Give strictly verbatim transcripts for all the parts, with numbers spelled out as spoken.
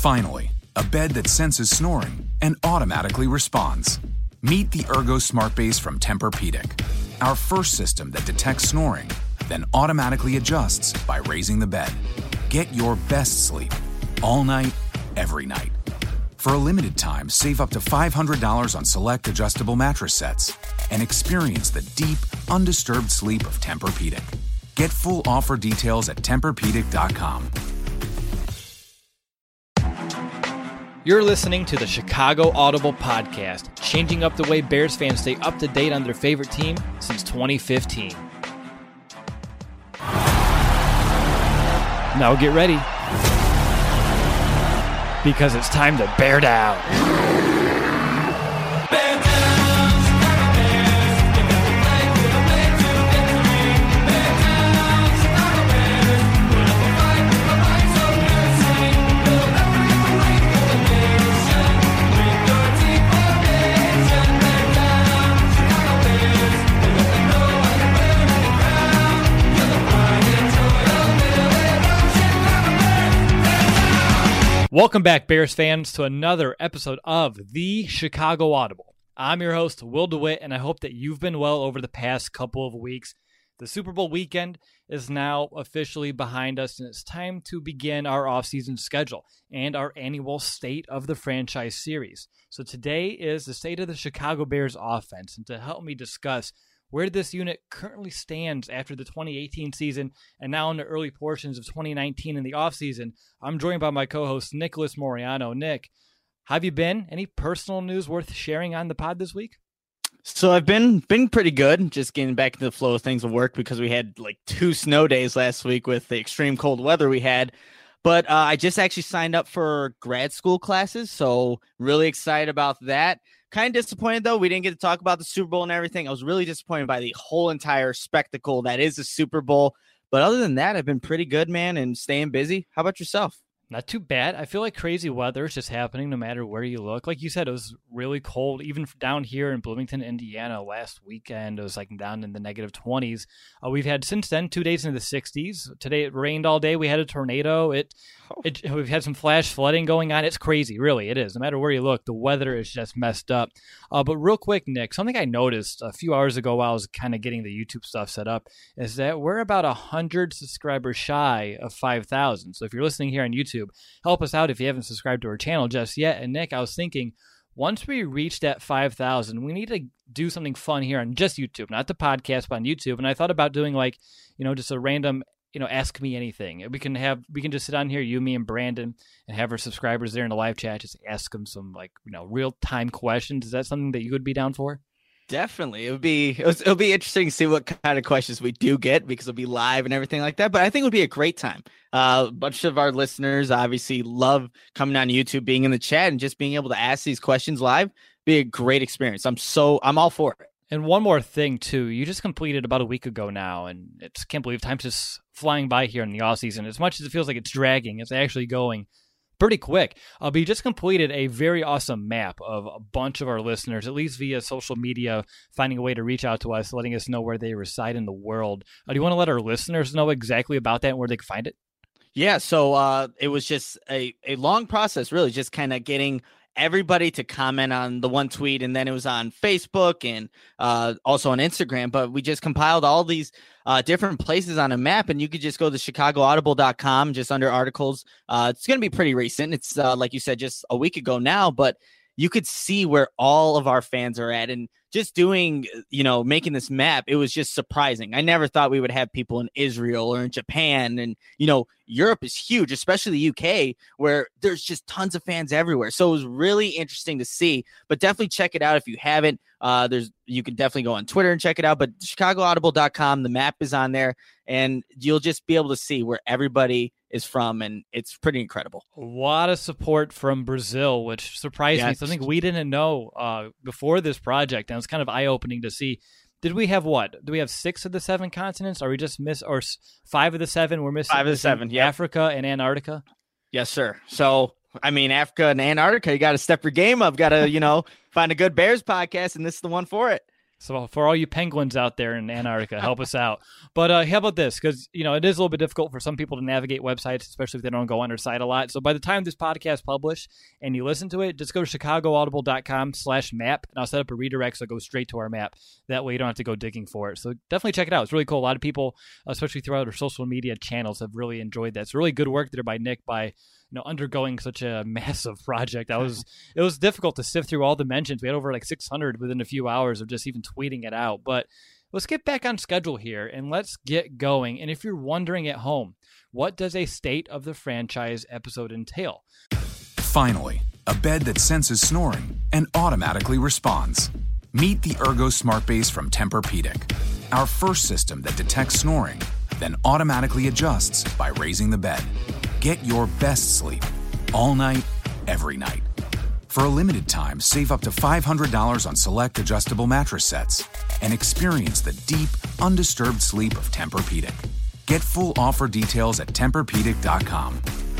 Finally, a bed that senses snoring and automatically responds. Meet the Ergo Smart Base from Tempur-Pedic, our first system that detects snoring, then automatically adjusts by raising the bed. Get your best sleep all night, every night. For a limited time, save up to five hundred dollars on select adjustable mattress sets and experience the deep, undisturbed sleep of Tempur-Pedic. Get full offer details at Tempur Pedic dot com. You're listening to the Chicago Audible Podcast, changing up the way Bears fans stay up to date on their favorite team since twenty fifteen. Now get ready, because it's time to bear down. Bear down. Welcome back, Bears fans, to another episode of the Chicago Audible. I'm your host, Will DeWitt, and I hope that you've been well over the past couple of weeks. The Super Bowl weekend is now officially behind us, and it's time to begin our offseason schedule and our annual State of the Franchise series. So today is the State of the Chicago Bears offense, and to help me discuss where this unit currently stands after the twenty eighteen season and now in the early portions of twenty nineteen in the offseason, I'm joined by my co-host, Nicholas Moriano. Nick, how have you been? Any personal news worth sharing on the pod this week? So I've been been pretty good, just getting back into the flow of things at work because we had like two snow days last week with the extreme cold weather we had. But uh, I just actually signed up for grad school classes, so really excited about that. Kind of disappointed, though. We didn't get to talk about the Super Bowl and everything. I was really disappointed by the whole entire spectacle that is the Super Bowl. But other than that, I've been pretty good, man, and staying busy. How about yourself? Not too bad. I feel like crazy weather is just happening no matter where you look. Like you said, it was really cold, even down here in Bloomington, Indiana last weekend. It was like down in the negative twenties. Uh, we've had since then two days in the sixties. Today it rained all day. We had a tornado. It, oh. it We've had some flash flooding going on. It's crazy, really. It is. No matter where you look, the weather is just messed up. Uh, but real quick, Nick, something I noticed a few hours ago while I was kind of getting the YouTube stuff set up is that we're about one hundred subscribers shy of five thousand. So if you're listening here on YouTube, help us out if you haven't subscribed to our channel just yet. And Nick, I was thinking, once we reach that five thousand, we need to do something fun here on just YouTube, not the podcast, but on YouTube. And I thought about doing like, you know, just a random, you know, ask me anything. We can have, we can just sit on here, you, me, and Brandon, and have our subscribers there in the live chat, just ask them some like, you know, real time questions. Is that something that you would be down for? Definitely. It would be, it was, it'll be interesting to see what kind of questions we do get because it'll be live and everything like that. But I think it would be a great time. Uh, a bunch of our listeners obviously love coming on YouTube, being in the chat and just being able to ask these questions live. Be a great experience. I'm so, I'm all for it. And one more thing too, you just completed about a week ago now, and it's can't believe time's just flying by here in the off season. As much as it feels like it's dragging, it's actually going pretty quick. Uh, but you just completed a very awesome map of a bunch of our listeners, at least via social media, finding a way to reach out to us, letting us know where they reside in the world. Uh, do you want to let our listeners know exactly about that and where they can find it? Yeah, so uh, it was just a, a long process, really, just kind of getting everybody to comment on the one tweet, and then it was on Facebook and uh, also on Instagram. But we just compiled all these uh, different places on a map, and you could just go to chicago audible dot com, just under articles. Uh, it's going to be pretty recent. It's uh, like you said, just a week ago now, but you could see where all of our fans are at. And just doing, you know, making this map, it was just surprising. I never thought we would have people in Israel or in Japan. And, you know, Europe is huge, especially the U K, where there's just tons of fans everywhere. So it was really interesting to see, but definitely check it out if you haven't. Uh, there's, you can definitely go on Twitter and check it out, but chicago audible dot com, the map is on there, and you'll just be able to see where everybody is from, and it's pretty incredible. A lot of support from Brazil, which surprised yes. me. Something we didn't know uh, before this project, and it's kind of eye-opening to see. Did we have what? Do we have six of the seven continents? Are we just miss or five of the seven? We're missing five of the seven. Yeah, Africa and Antarctica. Yes, sir. So, I mean, Africa and Antarctica, you got to step your game up. Got to, you know, find a good Bears podcast, and this is the one for it. So for all you Penguins out there in Antarctica, help us out. But uh, how about this? Because, you know, it is a little bit difficult for some people to navigate websites, especially if they don't go on our site a lot. So by the time this podcast published and you listen to it, just go to chicagoaudible.com slash map, and I'll set up a redirect so it goes straight to our map. That way you don't have to go digging for it. So definitely check it out. It's really cool. A lot of people, especially throughout our social media channels, have really enjoyed that. It's really good work there by Nick by you know, undergoing such a massive project. That was it was difficult to sift through all the mentions. We had over like six hundred within a few hours of just even tweeting it out. But let's get back on schedule here and let's get going. And if you're wondering at home, what does a State of the Franchise episode entail? Finally, a bed that senses snoring and automatically responds. Meet the Ergo Smart Base from Tempur-Pedic, our first system that detects snoring, then automatically adjusts by raising the bed. Get your best sleep all night, every night. For a limited time, save up to five hundred dollars on select adjustable mattress sets and experience the deep, undisturbed sleep of Tempur-Pedic. Get full offer details at Tempur Pedic dot com.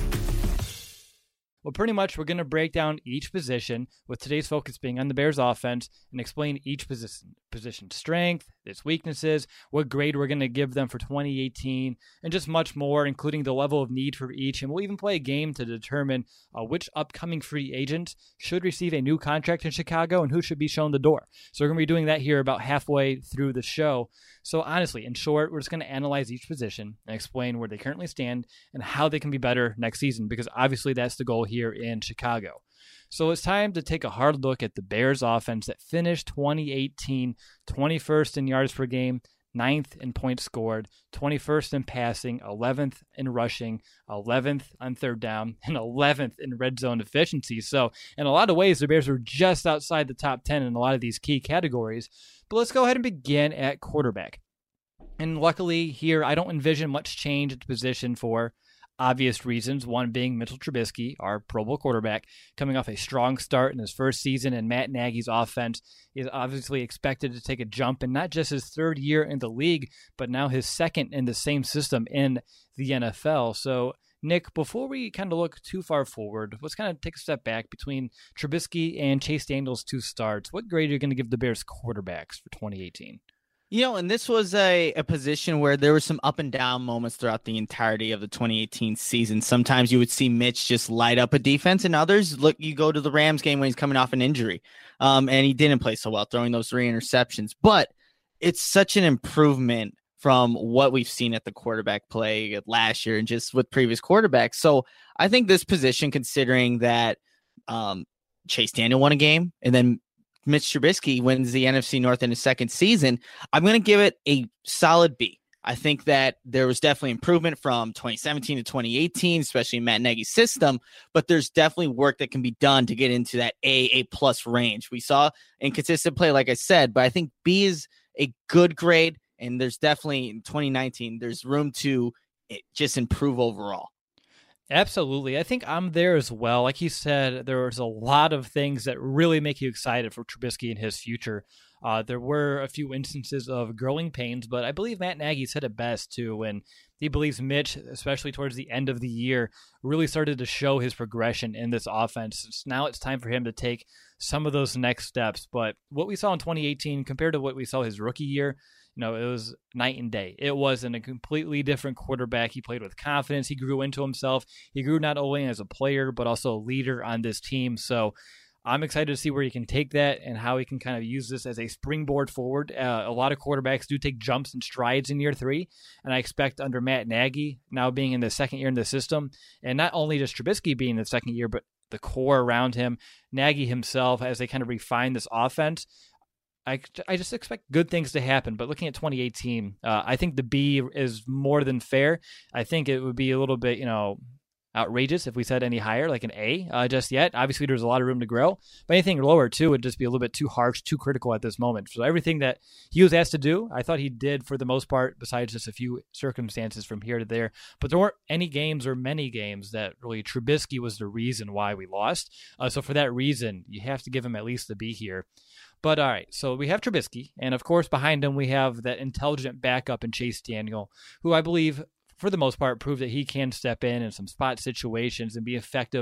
Well, pretty much we're going to break down each position, with today's focus being on the Bears offense, and explain each position, position strength, its weaknesses, what grade we're going to give them for twenty eighteen, and just much more, including the level of need for each. And we'll even play a game to determine uh, which upcoming free agent should receive a new contract in Chicago and who should be shown the door. So we're going to be doing that here about halfway through the show. So honestly, in short, we're just going to analyze each position and explain where they currently stand and how they can be better next season, because obviously that's the goal here in Chicago. So it's time to take a hard look at the Bears offense that finished twenty eighteen twenty-first in yards per game, ninth in points scored, twenty-first in passing, eleventh in rushing, eleventh on third down, and eleventh in red zone efficiency. So in a lot of ways, the Bears were just outside the top ten in a lot of these key categories. But let's go ahead and begin at quarterback. And luckily here, I don't envision much change at the position for obvious reasons, one being Mitchell Trubisky, our Pro Bowl quarterback, coming off a strong start in his first season, and Matt Nagy's offense is obviously expected to take a jump in not just his third year in the league, but now his second in the same system in the N F L. So, Nick, before we kind of look too far forward, let's kind of take a step back between Trubisky and Chase Daniel's two starts. What grade are you going to give the Bears quarterbacks for twenty eighteen? You know, and this was a, a position where there were some up and down moments throughout the entirety of the twenty eighteen season. Sometimes you would see Mitch just light up a defense, and others, look, you go to the Rams game when he's coming off an injury, um, and he didn't play so well, throwing those three interceptions. But it's such an improvement from what we've seen at the quarterback play last year and just with previous quarterbacks. So I think this position, considering that um, Chase Daniel won a game, and then Mitch Trubisky wins the N F C North in his second season, I'm going to give it a solid B. I think that there was definitely improvement from twenty seventeen to twenty eighteen, especially in Matt Nagy's system, but there's definitely work that can be done to get into that A, A plus range. We saw inconsistent play, like I said, but I think B is a good grade, and there's definitely in twenty nineteen, there's room to just improve overall. Absolutely. I think I'm there as well. Like you said, there was a lot of things that really make you excited for Trubisky and his future. Uh, there were a few instances of growing pains, but I believe Matt Nagy said it best too when he believes Mitch, especially towards the end of the year, really started to show his progression in this offense. So now it's time for him to take some of those next steps. But what we saw in twenty eighteen compared to what we saw his rookie year, you know, it was night and day. It wasn't a completely different quarterback. He played with confidence. He grew into himself. He grew not only as a player, but also a leader on this team. So I'm excited to see where he can take that and how he can kind of use this as a springboard forward. Uh, a lot of quarterbacks do take jumps and strides in year three, and I expect under Matt Nagy, now being in the second year in the system, and not only just Trubisky being in the second year, but the core around him, Nagy himself, as they kind of refine this offense, I, I just expect good things to happen. But looking at twenty eighteen, uh, I think the B is more than fair. I think it would be a little bit, you know, outrageous if we said any higher, like an A uh, just yet. Obviously, there's a lot of room to grow, but anything lower, too, would just be a little bit too harsh, too critical at this moment. So everything that he was asked to do, I thought he did for the most part, besides just a few circumstances from here to there. But there weren't any games or many games that really Trubisky was the reason why we lost. Uh, so for that reason, you have to give him at least the B here. But all right, so we have Trubisky, and of course behind him we have that intelligent backup in Chase Daniel, who I believe for the most part proved that he can step in in some spot situations and be effective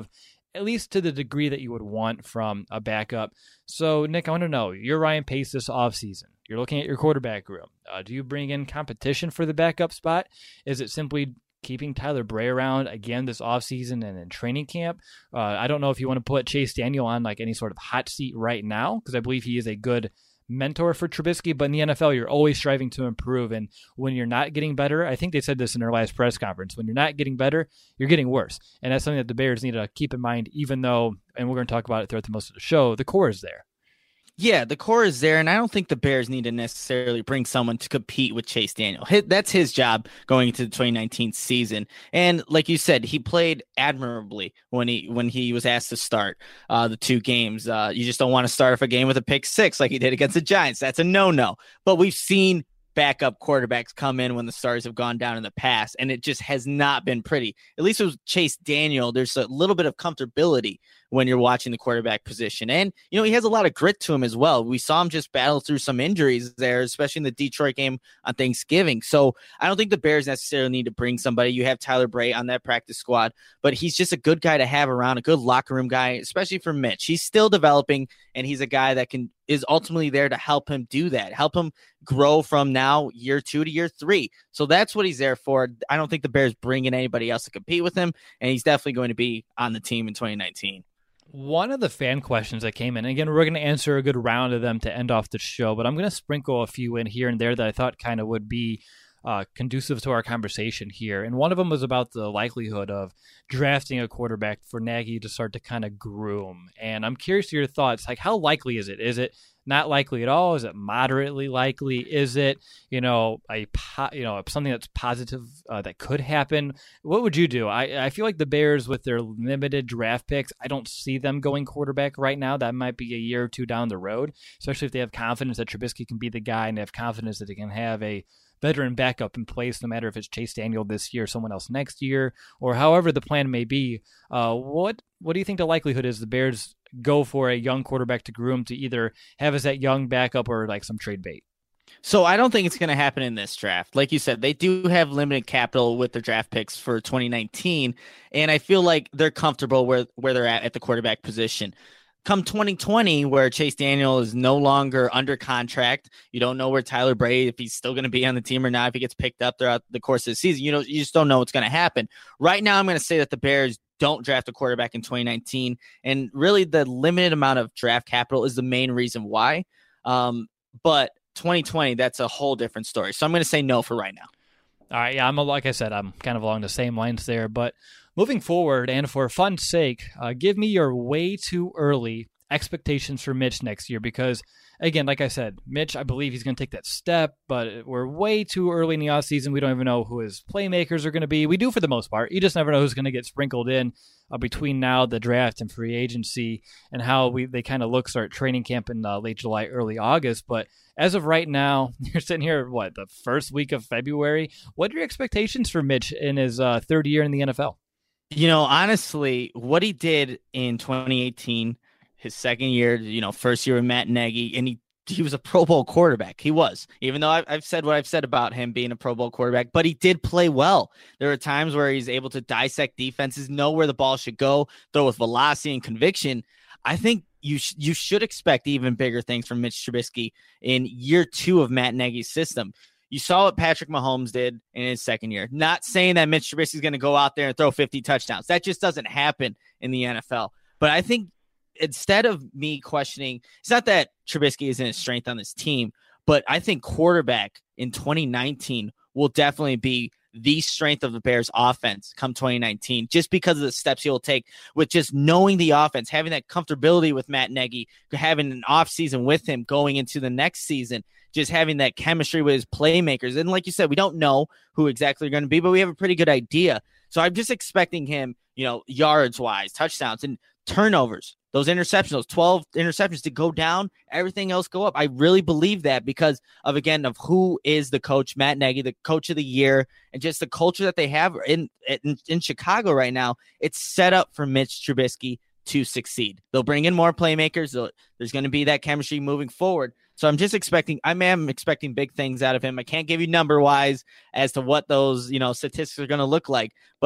at least to the degree that you would want from a backup. So, Nick, I want to know, you're Ryan Pace this offseason. You're looking at your quarterback room. Uh, do you bring in competition for the backup spot? Is it simply keeping Tyler Bray around again this offseason and in training camp? Uh, I don't know if you want to put Chase Daniel on like any sort of hot seat right now, because I believe he is a good mentor for Trubisky, but in the N F L, you're always striving to improve. And when you're not getting better, I think they said this in their last press conference, when you're not getting better, you're getting worse. And that's something that the Bears need to keep in mind, even though, and we're going to talk about it throughout the most of the show, the core is there. Yeah, the core is there, and I don't think the Bears need to necessarily bring someone to compete with Chase Daniel. That's his job going into the twenty nineteen season. And like you said, he played admirably when he when he was asked to start uh, the two games. Uh, you just don't want to start off a game with a pick six like he did against the Giants. That's a no-no. But we've seen backup quarterbacks come in when the stars have gone down in the past, and it just has not been pretty. At least with Chase Daniel, there's a little bit of comfortability when you're watching the quarterback position. And, you know, he has a lot of grit to him as well. We saw him just battle through some injuries there, especially in the Detroit game on Thanksgiving. So I don't think the Bears necessarily need to bring somebody. You have Tyler Bray on that practice squad, but he's just a good guy to have around, a good locker room guy, especially for Mitch. He's still developing, and he's a guy that can is ultimately there to help him do that, help him grow from now year two to year three. So that's what he's there for. I don't think the Bears bring in anybody else to compete with him, and he's definitely going to be on the team in twenty nineteen. One of the fan questions that came in, and again, we're going to answer a good round of them to end off the show, but I'm going to sprinkle a few in here and there that I thought kind of would be uh, conducive to our conversation here. And one of them was about the likelihood of drafting a quarterback for Nagy to start to kind of groom. And I'm curious to your thoughts. Like, how likely is it? Is it not likely at all? Is it moderately likely? Is it, you know, a po- you know something that's positive uh, that could happen? What would you do? I, I feel like the Bears, with their limited draft picks, I don't see them going quarterback right now. That might be a year or two down the road, especially if they have confidence that Trubisky can be the guy and they have confidence that they can have a veteran backup in place, no matter if it's Chase Daniel this year, someone else next year, or however the plan may be. Uh, what what do you think the likelihood is the Bears go for a young quarterback to groom to either have as that young backup or like some trade bait? So I don't think it's going to happen in this draft. Like you said, they do have limited capital with their draft picks for twenty nineteen, and I feel like they're comfortable where, where they're at at the quarterback position. Come twenty twenty, where Chase Daniel is no longer under contract, you don't know where Tyler Bray, if he's still going to be on the team or not, if he gets picked up throughout the course of the season, you know, you just don't know what's going to happen. Right now, I'm going to say that the Bears don't draft a quarterback in twenty nineteen, and really the limited amount of draft capital is the main reason why. Um, but twenty twenty, that's a whole different story. So I'm going to say no for right now. All right, yeah, I'm like I said, I'm kind of along the same lines there, but moving forward, and for fun's sake, uh, give me your way too early expectations for Mitch next year, because, again, like I said, Mitch, I believe he's going to take that step, but we're way too early in the offseason. We don't even know who his playmakers are going to be. We do for the most part. You just never know who's going to get sprinkled in uh, between now, the draft, and free agency, and how we they kind of look start training camp in uh, late July, early August. But as of right now, you're sitting here, what, the first week of February? What are your expectations for Mitch in his uh, third year in the N F L? You know, honestly, what he did in twenty eighteen, his second year, you know, first year with Matt Nagy, and he he was a Pro Bowl quarterback. He was, even though I've, I've said what I've said about him being a Pro Bowl quarterback, but he did play well. There are times where he's able to dissect defenses, know where the ball should go, throw with velocity and conviction. I think you sh- you should expect even bigger things from Mitch Trubisky in year two of Matt Nagy's system. You saw what Patrick Mahomes did in his second year. Not saying that Mitch Trubisky is going to go out there and throw fifty touchdowns. That just doesn't happen in the N F L. But I think instead of me questioning, it's not that Trubisky isn't a strength on this team, but I think quarterback in twenty nineteen will definitely be the strength of the Bears offense come twenty nineteen, just because of the steps he'll take with just knowing the offense, having that comfortability with Matt Nagy, having an off season with him going into the next season, just having that chemistry with his playmakers. And like you said, we don't know who exactly they're going to be, but we have a pretty good idea. So I'm just expecting him, you know, yards wise, touchdowns and turnovers, those interceptions, those twelve interceptions to go down, everything else go up. I really believe that because of, again, of who is the coach, Matt Nagy, the coach of the year, and just the culture that they have in, in, in Chicago right now. It's set up for Mitch Trubisky to succeed. They'll bring in more playmakers. There's going to be that chemistry moving forward. So I'm just expecting, I am expecting big things out of him. I can't give you number wise as to what those, you know, statistics are going to look like, but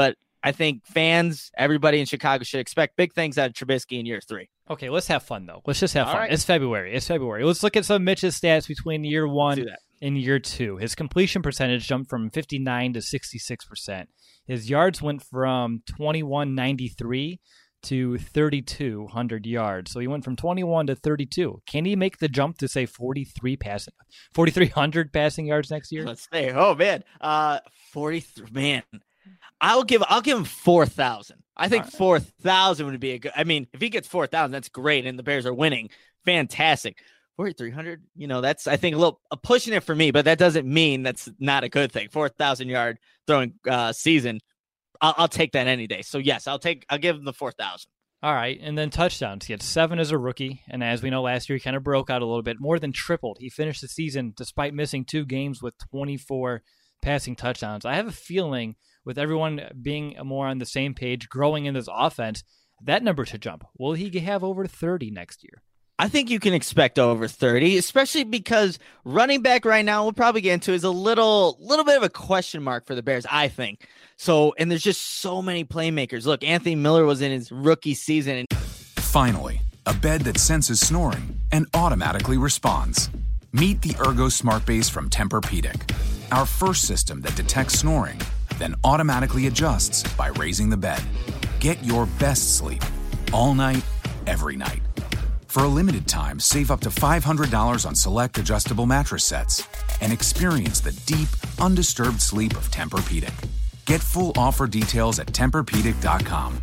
I think fans, everybody in Chicago should expect big things out of Trubisky in year three. Okay, let's have fun, though. Let's just have All fun. right. It's February. It's February. Let's look at some of Mitch's stats between year one and year two. His completion percentage jumped from fifty-nine to sixty-six percent. His yards went from twenty-one ninety-three to thirty-two hundred yards. So he went from twenty-one to thirty-two. Can he make the jump to, say, forty-three passing, forty-three hundred passing yards next year? Let's say, oh, man. Uh, forty-three, man. I'll give I'll give him four thousand. I think right. four thousand would be a good. I mean, if he gets four thousand, that's great, and the Bears are winning. Fantastic. forty-three hundred, you know, that's, I think, a little uh, pushing it for me, but that doesn't mean that's not a good thing. four thousand yard throwing uh, season. I'll, I'll take that any day. So, yes, I'll take, I'll give him the four thousand. All right. And then touchdowns. He had seven as a rookie. And as we know, last year, he kind of broke out a little bit, more than tripled. He finished the season despite missing two games with twenty-four passing touchdowns. I have a feeling with everyone being more on the same page, growing in this offense, that number should jump. Will he have over thirty next year? I think you can expect over thirty, especially because running back right now, we'll probably get into, is a little, little bit of a question mark for the Bears, I think. So, and there's just so many playmakers. Look, Anthony Miller was in his rookie season. And- Finally, a bed that senses snoring and automatically responds. Meet the Ergo Smart Base from Tempur-Pedic, our first system that detects snoring, then automatically adjusts by raising the bed. Get your best sleep all night, every night. For a limited time, save up to five hundred dollars on select adjustable mattress sets and experience the deep, undisturbed sleep of Tempur-Pedic. Get full offer details at Tempur Pedic dot com.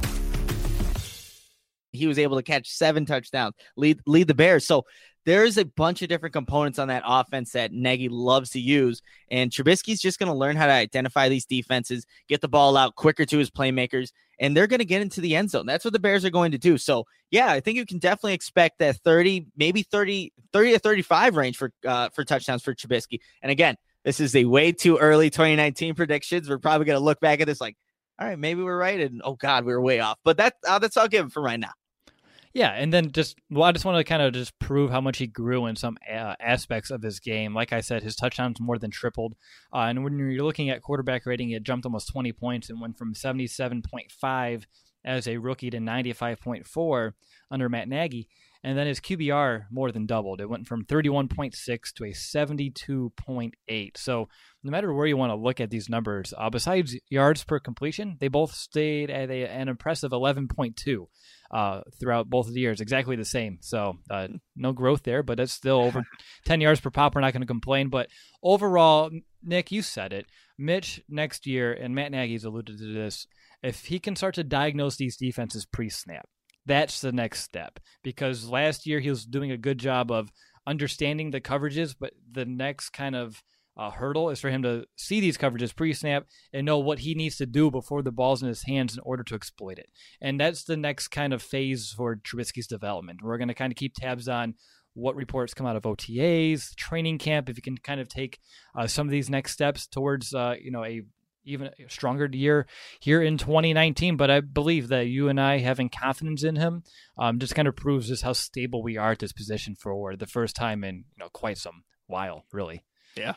He was able to catch seven touchdowns, lead lead the Bears. So there's a bunch of different components on that offense that Nagy loves to use, and Trubisky's just going to learn how to identify these defenses, get the ball out quicker to his playmakers, and they're going to get into the end zone. That's what the Bears are going to do. So, yeah, I think you can definitely expect that thirty, maybe thirty, thirty to thirty-five range for uh, for touchdowns for Trubisky. And again, this is a way too early twenty nineteen predictions. We're probably going to look back at this like, all right, maybe we're right, and oh God, we were way off. But that uh, that's all I'll give him for right now. Yeah, and then just, well, I just want to kind of just prove how much he grew in some uh, aspects of his game. Like I said, his touchdowns more than tripled. Uh, and when you're looking at quarterback rating, it jumped almost twenty points and went from seventy-seven point five as a rookie to ninety-five point four under Matt Nagy. And then his Q B R more than doubled. It went from thirty-one point six to a seventy-two point eight. So no matter where you want to look at these numbers, uh, besides yards per completion, they both stayed at a, an impressive eleven point two uh, throughout both of the years, exactly the same. So uh, no growth there, but it's still over ten yards per pop. We're not going to complain. But overall, Nick, you said it. Mitch next year, and Matt Nagy's alluded to this, if he can start to diagnose these defenses pre-snap, that's the next step, because last year he was doing a good job of understanding the coverages, but the next kind of uh, hurdle is for him to see these coverages pre-snap and know what he needs to do before the ball's in his hands in order to exploit it. And that's the next kind of phase for Trubisky's development. We're going to kind of keep tabs on what reports come out of O T As, training camp, if you can kind of take uh, some of these next steps towards uh, you know, a even a stronger year here in twenty nineteen. But I believe that you and I having confidence in him um, just kind of proves just how stable we are at this position for the first time in, you know, quite some while, really. Yeah.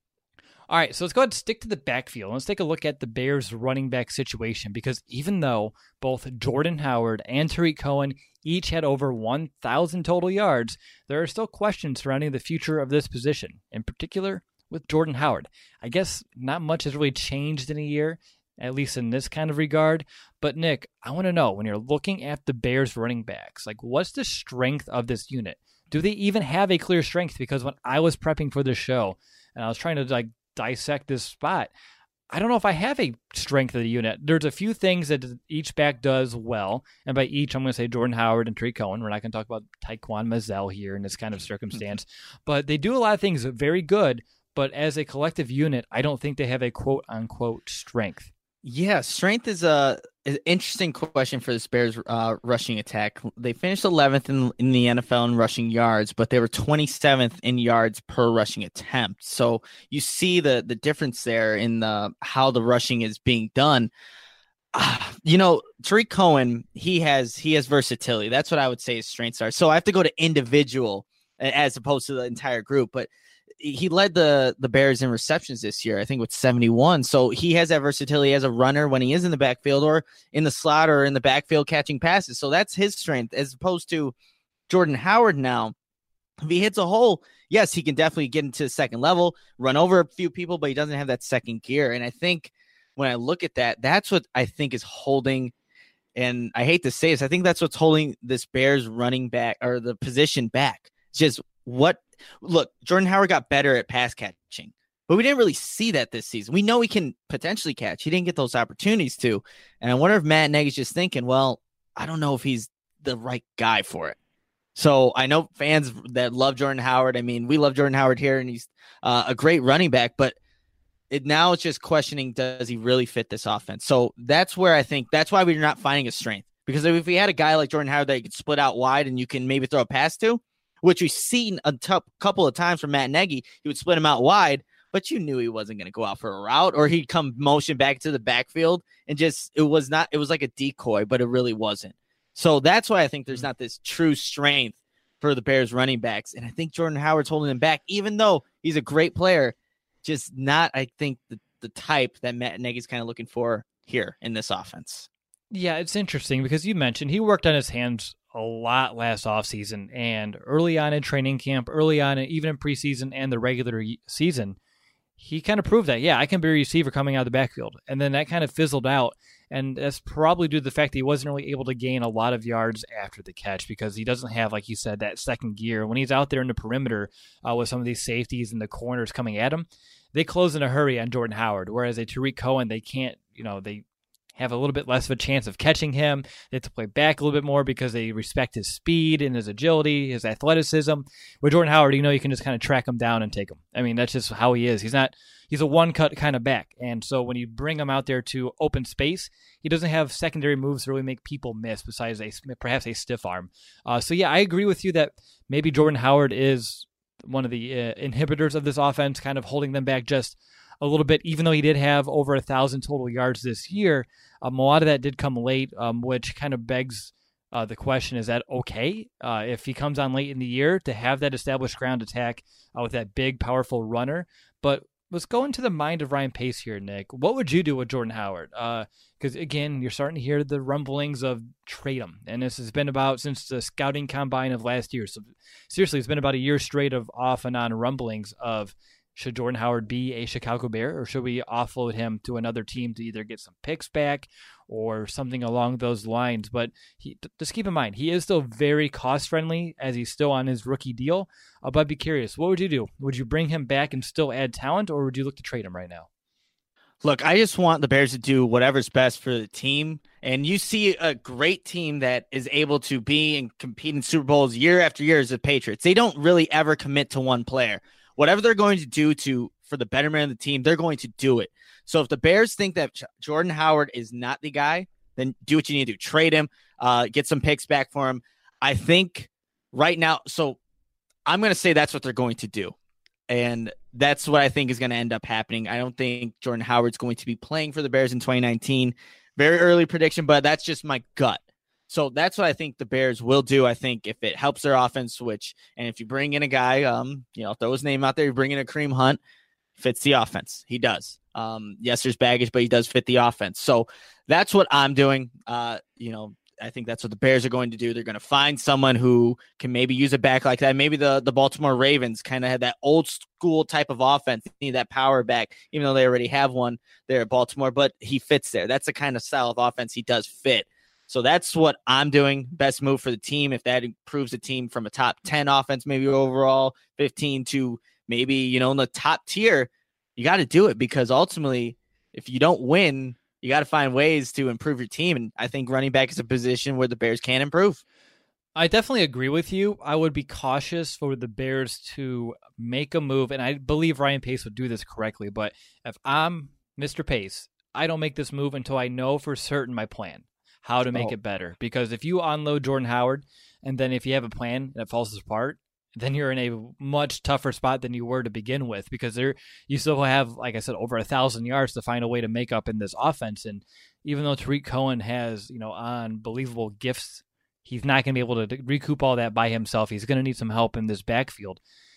All right, so let's go ahead and stick to the backfield. Let's take a look at the Bears running back situation, because even though both Jordan Howard and Tarik Cohen each had over one thousand total yards, there are still questions surrounding the future of this position, in particular with Jordan Howard. I guess not much has really changed in a year, at least in this kind of regard. But Nick, I want to know, when you're looking at the Bears running backs, like, what's the strength of this unit? Do they even have a clear strength? Because when I was prepping for this show and I was trying to like dissect this spot, I don't know if I have a strength of the unit. There's a few things that each back does well, and by each, I'm going to say Jordan Howard and Tarik Cohen. We're not going to talk about Tyquan Mazzell here in this kind of circumstance, but they do a lot of things very good. But as a collective unit, I don't think they have a quote-unquote strength. Yeah, strength is a an interesting question for the Bears uh, rushing attack. They finished eleventh in, in the N F L in rushing yards, but they were twenty-seventh in yards per rushing attempt. So you see the the difference there in the how the rushing is being done. Uh, you know, Tarik Cohen, he has he has versatility. That's what I would say his strengths are. So I have to go to individual as opposed to the entire group. But he led the the Bears in receptions this year, I think with seventy-one. So he has that versatility as a runner when he is in the backfield or in the slot or in the backfield catching passes. So that's his strength as opposed to Jordan Howard now. If he hits a hole, yes, he can definitely get into the second level, run over a few people, but he doesn't have that second gear. And I think when I look at that, that's what I think is holding, and I hate to say this, I think that's what's holding this Bears running back or the position back. It's just what, look, Jordan Howard got better at pass catching, but we didn't really see that this season. We know he can potentially catch. He didn't get those opportunities to. And I wonder if Matt Nagy's just thinking, well, I don't know if he's the right guy for it. So I know fans that love Jordan Howard. I mean, we love Jordan Howard here, and he's uh, a great running back, but it now it's just questioning, does he really fit this offense? So that's where I think that's why we're not finding his strength. Because if we had a guy like Jordan Howard that you could split out wide and you can maybe throw a pass to, which we've seen a t- couple of times from Matt Nagy, he would split him out wide, but you knew he wasn't going to go out for a route, or he'd come motion back to the backfield and just, it was not, it was like a decoy, but it really wasn't. So that's why I think there's not this true strength for the Bears running backs. And I think Jordan Howard's holding him back, even though he's a great player, just not, I think, the, the type that Matt Nagy's kind of looking for here in this offense. Yeah, it's interesting because you mentioned he worked on his hands a lot last offseason and early on in training camp, early on, even in preseason and the regular season. He kind of proved that, yeah, I can be a receiver coming out of the backfield. And then that kind of fizzled out. And that's probably due to the fact that he wasn't really able to gain a lot of yards after the catch because he doesn't have, like you said, that second gear. When he's out there in the perimeter uh, with some of these safeties and the corners coming at him, they close in a hurry on Jordan Howard. Whereas a Tariq Cohen, they can't, you know, they have a little bit less of a chance of catching him. They have to play back a little bit more because they respect his speed and his agility, his athleticism. With Jordan Howard, you know, you can just kind of track him down and take him. I mean, that's just how he is. He's not, he's a one-cut kind of back. And so when you bring him out there to open space, he doesn't have secondary moves to really make people miss besides a perhaps a stiff arm. Uh, so, yeah, I agree with you that maybe Jordan Howard is one of the uh, inhibitors of this offense, kind of holding them back just a little bit, even though he did have over a thousand total yards this year. Um, a lot of that did come late, um, which kind of begs uh, the question, is that okay uh, if he comes on late in the year to have that established ground attack uh, with that big, powerful runner? But let's go into the mind of Ryan Pace here, Nick. What would you do with Jordan Howard? Because, uh, again, you're starting to hear the rumblings of trade him. And this has been about since the scouting combine of last year. So seriously, it's been about a year straight of off and on rumblings of, should Jordan Howard be a Chicago Bear, or should we offload him to another team to either get some picks back or something along those lines? But he, just keep in mind, he is still very cost-friendly as he's still on his rookie deal. Uh, but I'd be curious, what would you do? Would you bring him back and still add talent, or would you look to trade him right now? Look, I just want the Bears to do whatever's best for the team. And you see a great team that is able to be and compete in Super Bowls year after year as the Patriots. They don't really ever commit to one player. Whatever they're going to do to for the betterment of the team, they're going to do it. So if the Bears think that Jordan Howard is not the guy, then do what you need to do. Trade him, uh, get some picks back for him. I think right now, so I'm going to say that's what they're going to do. And that's what I think is going to end up happening. I don't think Jordan Howard's going to be playing for the Bears in twenty nineteen. Very early prediction, but that's just my gut. So that's what I think the Bears will do. I think if it helps their offense switch, and if you bring in a guy, um, you know, throw his name out there, you bring in a Kareem Hunt, fits the offense. He does. Um, yes, there's baggage, but he does fit the offense. So that's what I'm doing. Uh, you know, I think that's what the Bears are going to do. They're going to find someone who can maybe use a back like that. Maybe the, the Baltimore Ravens kind of had that old school type of offense. They need that power back, even though they already have one there at Baltimore, but he fits there. That's the kind of style of offense he does fit. So that's what I'm doing. Best move for the team. If that improves the team from a top ten offense, maybe overall fifteen to maybe, you know, in the top tier, you got to do it, because ultimately, if you don't win, you got to find ways to improve your team. And I think running back is a position where the Bears can improve. I definitely agree with you. I would be cautious for the Bears to make a move, and I believe Ryan Pace would do this correctly. But if I'm Mister Pace, I don't make this move until I know for certain my plan, how to make oh. it better. Because if you unload Jordan Howard, and then if you have a plan that falls apart, then you're in a much tougher spot than you were to begin with, because there you still have, like I said, over a thousand yards to find a way to make up in this offense. And even though Tariq Cohen has, you know, unbelievable gifts, he's not going to be able to recoup all that by himself. He's going to need some help in this backfield.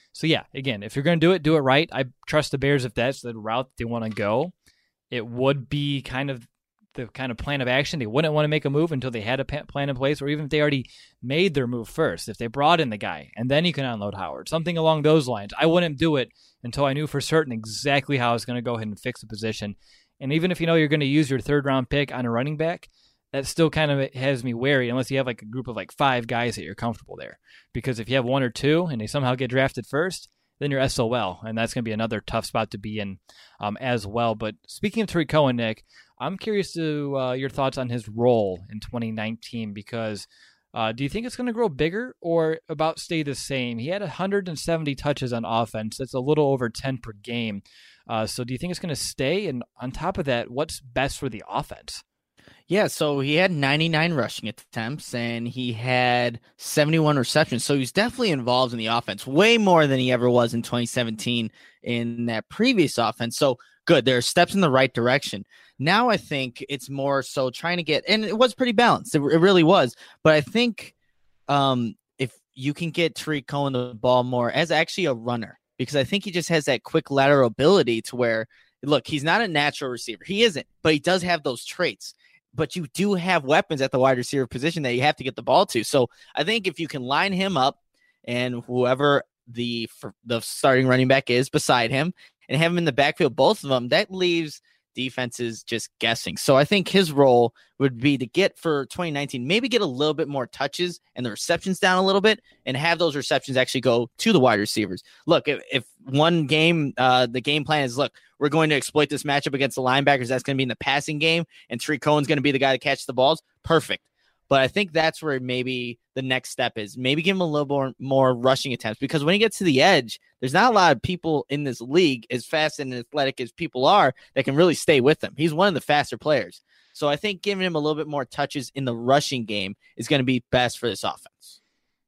So yeah, again, if you're going to do it, do it right. I trust the Bears if that's the route they want to go. It would be kind of the kind of plan of action. They wouldn't want to make a move until they had a plan in place, or even if they already made their move first, if they brought in the guy and then you can unload Howard, something along those lines. I wouldn't do it until I knew for certain exactly how I was going to go ahead and fix the position. And even if you know you're going to use your third round pick on a running back, that still kind of has me wary unless you have like a group of like five guys that you're comfortable there. Because if you have one or two and they somehow get drafted first, then you're S O L, and that's going to be another tough spot to be in um, as well. But speaking of Tarik Cohen, Nick, I'm curious to uh, your thoughts on his role in twenty nineteen, because uh, do you think it's going to grow bigger or about stay the same? He had one hundred seventy touches on offense. That's a little over ten per game. Uh, so do you think it's going to stay? And on top of that, what's best for the offense? Yeah, so he had ninety-nine rushing attempts and he had seventy-one receptions. So he's definitely involved in the offense, way more than he ever was in twenty seventeen in that previous offense. So good, there are steps in the right direction. Now I think it's more so trying to get, and it was pretty balanced. It, it really was. But I think um, if you can get Tarik Cohen the ball more as actually a runner, because I think he just has that quick lateral ability to where, look, he's not a natural receiver. He isn't, but he does have those traits. But you do have weapons at the wide receiver position that you have to get the ball to. So I think if you can line him up and whoever the the starting running back is beside him and have him in the backfield, both of them, that leaves defenses just guessing. So I think his role would be to get for twenty nineteen, maybe get a little bit more touches and the receptions down a little bit and have those receptions actually go to the wide receivers. Look, if, if one game, uh, the game plan is, look, we're going to exploit this matchup against the linebackers. That's going to be in the passing game, and Tarik Cohen's going to be the guy to catch the balls. Perfect. But I think that's where maybe the next step is. Maybe give him a little more, more rushing attempts, because when he gets to the edge, there's not a lot of people in this league, as fast and athletic as people are, that can really stay with him. He's one of the faster players. So I think giving him a little bit more touches in the rushing game is going to be best for this offense.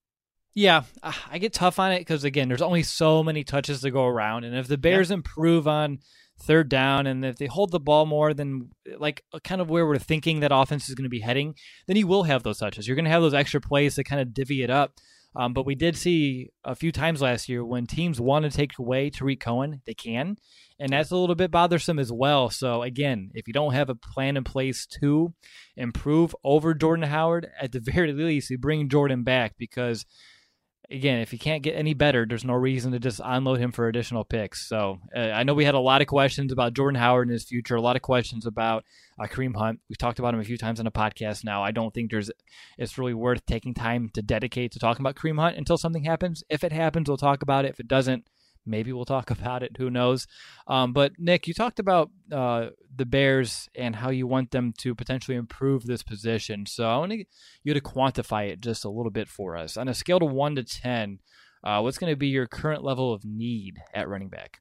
Yeah, I get tough on it because, again, there's only so many touches to go around. And if the Bears yeah. improve on third down and if they hold the ball more than like kind of where we're thinking that offense is going to be heading, then you will have those touches. You're going to have those extra plays to kind of divvy it up. Um, but we did see a few times last year when teams want to take away Tarik Cohen, they can. And that's a little bit bothersome as well. So, again, if you don't have a plan in place to improve over Jordan Howard, at the very least, you bring Jordan back, because again, if he can't get any better, there's no reason to just unload him for additional picks. So uh, I know we had a lot of questions about Jordan Howard and his future, a lot of questions about uh, Kareem Hunt. We've talked about him a few times on the podcast now. I don't think there's it's really worth taking time to dedicate to talking about Kareem Hunt until something happens. If it happens, we'll talk about it. If it doesn't, maybe we'll talk about it. Who knows? Um, but, Nick, you talked about uh, the Bears and how you want them to potentially improve this position. So I want you to quantify it just a little bit for us. On a scale of one to ten, uh, what's going to be your current level of need at running back?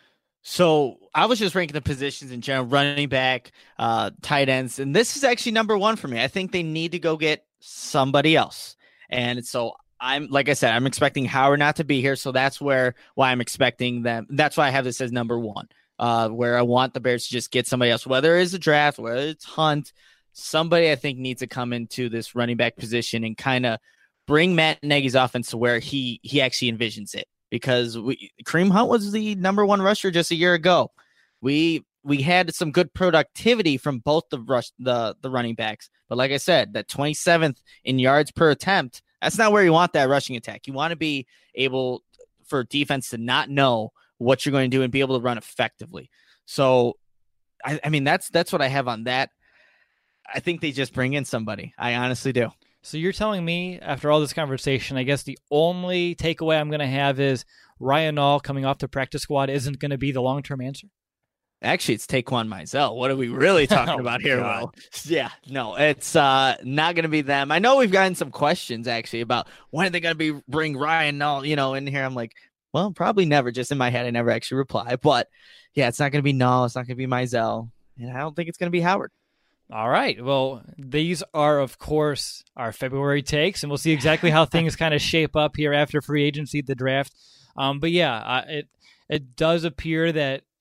So I was just ranking the positions in general, running back, uh, tight ends, and this is actually number one for me. I think they need to go get somebody else. And so I'm, like I said, I'm expecting Howard not to be here. So that's where, why I'm expecting them. That's why I have this as number one, uh, where I want the Bears to just get somebody else, whether it's a draft, whether it's Hunt, somebody I think needs to come into this running back position and kind of bring Matt Nagy's offense to where he, he actually envisions it. Because we, Kareem Hunt was the number one rusher just a year ago. We, we had some good productivity from both the rush, the, the running backs. But like I said, that twenty-seventh in yards per attempt, that's not where you want that rushing attack. You want to be able for defense to not know what you're going to do and be able to run effectively. So, I, I mean, that's that's what I have on that. I think they just bring in somebody. I honestly do. So you're telling me, after all this conversation, I guess the only takeaway I'm going to have is Ryan Nall coming off the practice squad isn't going to be the long-term answer? Actually, it's Taquan Mizell. What are we really talking oh, about here, God. Will? Yeah, no, it's uh, not going to be them. I know we've gotten some questions, actually, about when are they going to be bring Ryan Nall, you know, in here. I'm like, well, probably never. Just in my head, I never actually reply. But, yeah, it's not going to be Nall. It's not going to be Mizell. And I don't think it's going to be Howard. All right. Well, these are, of course, our February takes, and we'll see exactly how things kind of shape up here after free agency, the draft. Um, but, yeah, uh, it it does appear that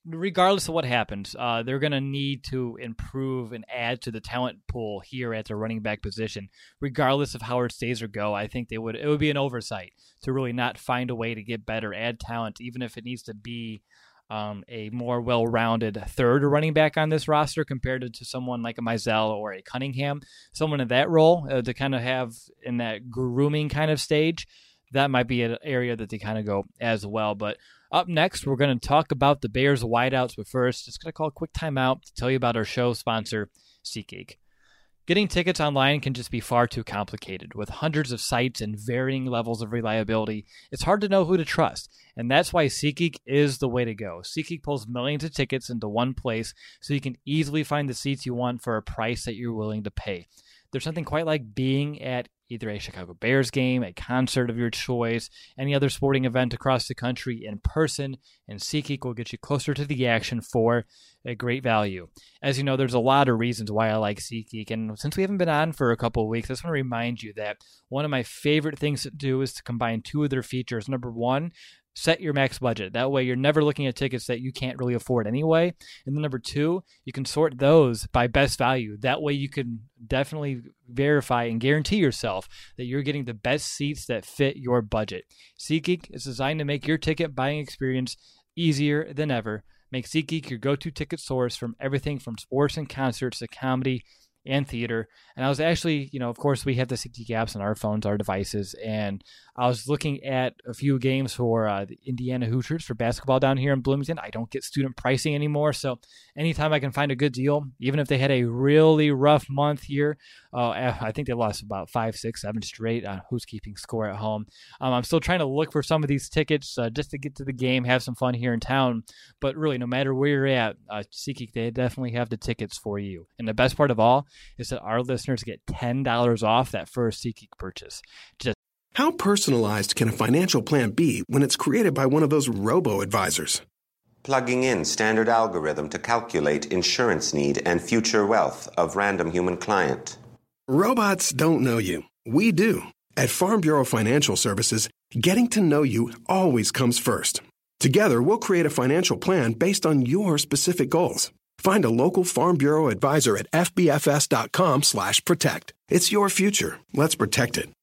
regardless of what happens, uh, they're going to need to improve and add to the talent pool here at the running back position. Regardless of how it stays or go, I think they would. It would be an oversight to really not find a way to get better, add talent, even if it needs to be um, a more well-rounded third running back on this roster compared to, to someone like a Mizell or a Cunningham, someone in that role uh, to kind of have in that grooming kind of stage. That might be an area that they kind of go as well, but. Up next, we're going to talk about the Bears wideouts, but first, just going to call a quick timeout to tell you about our show sponsor, SeatGeek. Getting tickets online can just be far too complicated. With hundreds of sites and varying levels of reliability, it's hard to know who to trust, and that's why SeatGeek is the way to go. SeatGeek pulls millions of tickets into one place so you can easily find the seats you want for a price that you're willing to pay. There's something quite like being at either a Chicago Bears game, a concert of your choice, any other sporting event across the country in person, and SeatGeek will get you closer to the action for a great value. As you know, there's a lot of reasons why I like SeatGeek, and since we haven't been on for a couple of weeks, I just want to remind you that one of my favorite things to do is to combine two of their features. Number one, set your max budget. That way you're never looking at tickets that you can't really afford anyway. And then number two, you can sort those by best value. That way you can definitely verify and guarantee yourself that you're getting the best seats that fit your budget. SeatGeek is designed to make your ticket buying experience easier than ever. Make SeatGeek your go-to ticket source from everything from sports and concerts to comedy and theater. And I was actually, you know, of course, we have the SeatGeek apps on our phones, our devices, and I was looking at a few games for uh, the Indiana Hoosiers for basketball down here in Bloomington. I don't get student pricing anymore, so anytime I can find a good deal, even if they had a really rough month here, uh, I think they lost about five, six, seven straight. Uh, who's keeping score at home? Um, I'm still trying to look for some of these tickets uh, just to get to the game, have some fun here in town. But really, no matter where you're at, uh, SeatGeek, they definitely have the tickets for you. And the best part of all is that our listeners get ten dollars off that first SeatGeek purchase. Just How personalized can a financial plan be when it's created by one of those robo-advisors? Plugging in standard algorithm to calculate insurance need and future wealth of random human client. Robots don't know you. We do. At Farm Bureau Financial Services, getting to know you always comes first. Together, we'll create a financial plan based on your specific goals. Find a local Farm Bureau advisor at fbfs.com slash protect. It's your future. Let's protect it.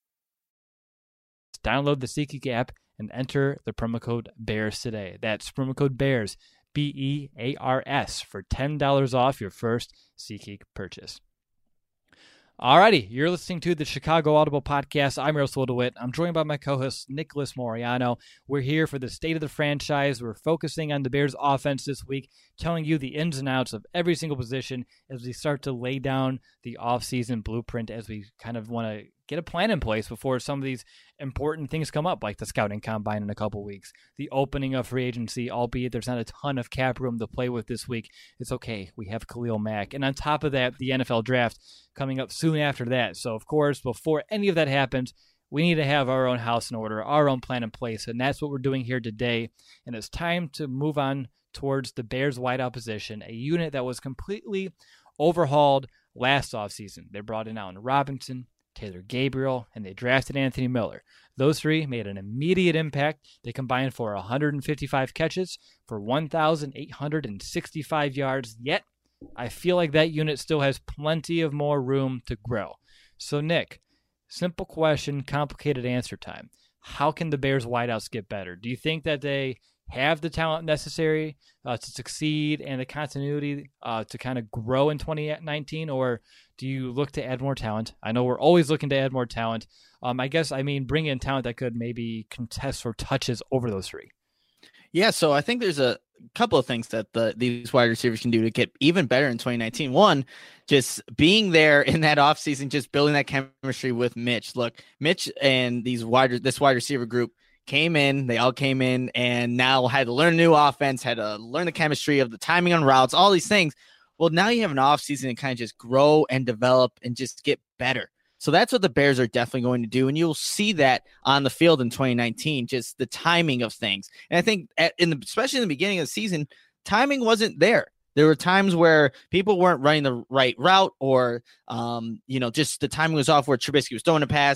download the SeatGeek app and enter the promo code BEARS today. That's promo code BEARS, B E A R S, for ten dollars off your first SeatGeek purchase. Alrighty, you're listening to the Chicago Audible Podcast. I'm Russell DeWitt. I'm joined by my co-host, Nicholas Moriano. We're here for the state of the franchise. We're focusing on the Bears' offense this week, telling you the ins and outs of every single position as we start to lay down the offseason blueprint, as we kind of want to get a plan in place before some of these important things come up, like the scouting combine in a couple weeks, the opening of free agency, albeit there's not a ton of cap room to play with this week. It's okay. We have Khalil Mack. And on top of that, the N F L draft coming up soon after that. So, of course, before any of that happens, we need to have our own house in order, our own plan in place. And that's what we're doing here today. And it's time to move on towards the Bears wideout position, a unit that was completely overhauled last offseason. They brought in Allen Robinson, Taylor Gabriel, and they drafted Anthony Miller. Those three made an immediate impact. They combined for one hundred fifty-five catches for one thousand eight hundred sixty-five yards, yet I feel like that unit still has plenty of more room to grow. So, Nick, simple question, complicated answer time. How can the Bears wideouts get better? Do you think that they have the talent necessary uh, to succeed and the continuity uh, to kind of grow in twenty nineteen, or do you look to add more talent? I know we're always looking to add more talent. Um, I guess, I mean, bring in talent that could maybe contest for touches over those three. Yeah, so I think there's a couple of things that the these wide receivers can do to get even better in twenty nineteen. One, just being there in that offseason, just building that chemistry with Mitch. Look, Mitch and these wide this wide receiver group came in, they all came in and now had to learn a new offense, had to learn the chemistry of the timing on routes, all these things. Well, now you have an offseason to kind of just grow and develop and just get better. So that's what the Bears are definitely going to do. And you'll see that on the field in twenty nineteen, just the timing of things. And I think at, in the, especially in the beginning of the season, timing wasn't there. There were times where people weren't running the right route or, um, you know, just the timing was off where Trubisky was throwing a pass.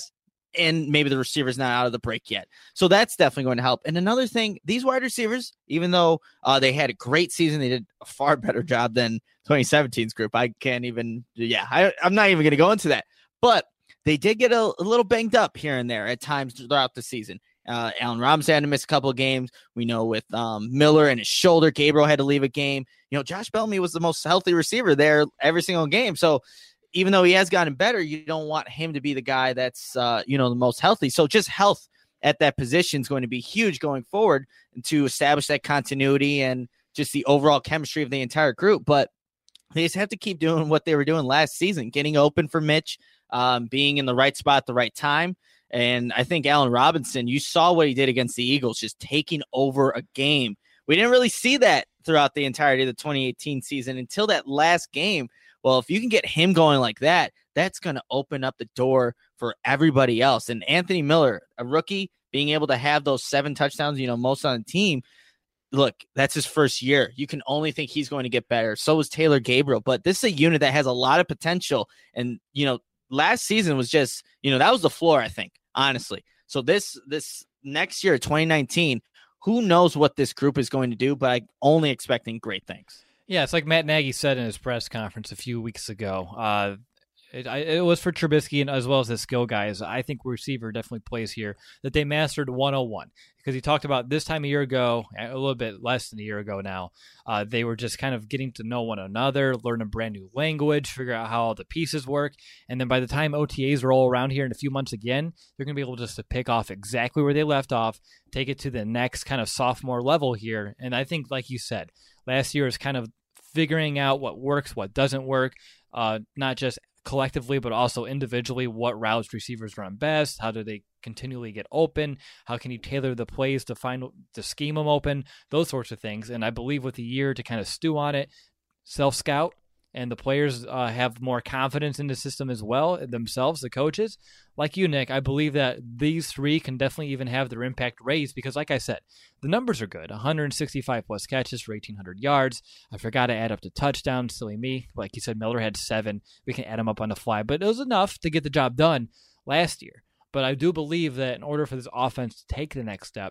and maybe the receiver's not out of the break yet. So that's definitely going to help. And another thing, these wide receivers, even though uh, they had a great season, they did a far better job than twenty seventeen's group. I can't even, yeah, I, I'm not even going to go into that. But they did get a, a little banged up here and there at times throughout the season. Uh, Allen Robinson had to miss a couple of games. We know with um, Miller and his shoulder, Gabriel had to leave a game. You know, Josh Bellamy was the most healthy receiver there every single game. So even though he has gotten better, you don't want him to be the guy that's, uh, you know, the most healthy. So just health at that position is going to be huge going forward to establish that continuity and just the overall chemistry of the entire group. But they just have to keep doing what they were doing last season, getting open for Mitch, um, being in the right spot at the right time. And I think Allen Robinson, you saw what he did against the Eagles, just taking over a game. We didn't really see that throughout the entirety of the twenty eighteen season until that last game. Well, if you can get him going like that, that's going to open up the door for everybody else. And Anthony Miller, a rookie, being able to have those seven touchdowns, you know, most on the team, look, that's his first year. You can only think he's going to get better. So was Taylor Gabriel. But this is a unit that has a lot of potential. And, you know, last season was just, you know, that was the floor, I think, honestly. So this this next year, twenty nineteen, who knows what this group is going to do, but I'm only expecting great things. Yeah, it's like Matt Nagy said in his press conference a few weeks ago. Uh, it, it was for Trubisky and as well as the skill guys. I think receiver definitely plays here, that they mastered one oh one. Because he talked about this time a year ago, a little bit less than a year ago now, uh, they were just kind of getting to know one another, learn a brand new language, figure out how all the pieces work. And then by the time O T As roll around here in a few months again, they're going to be able just to pick off exactly where they left off, take it to the next kind of sophomore level here. And I think, like you said, last year is kind of figuring out what works, what doesn't work, uh, not just collectively, but also individually, what routes receivers run best, how do they continually get open, how can you tailor the plays to find to scheme them open, those sorts of things. And I believe with the year to kind of stew on it, self-scout, and the players uh, have more confidence in the system as well, themselves, the coaches. Like you, Nick, I believe that these three can definitely even have their impact raised because, like I said, the numbers are good. one hundred sixty-five plus catches for eighteen hundred yards. I forgot to add up the touchdowns. Silly me. Like you said, Miller had seven. We can add them up on the fly. But it was enough to get the job done last year. But I do believe that in order for this offense to take the next step,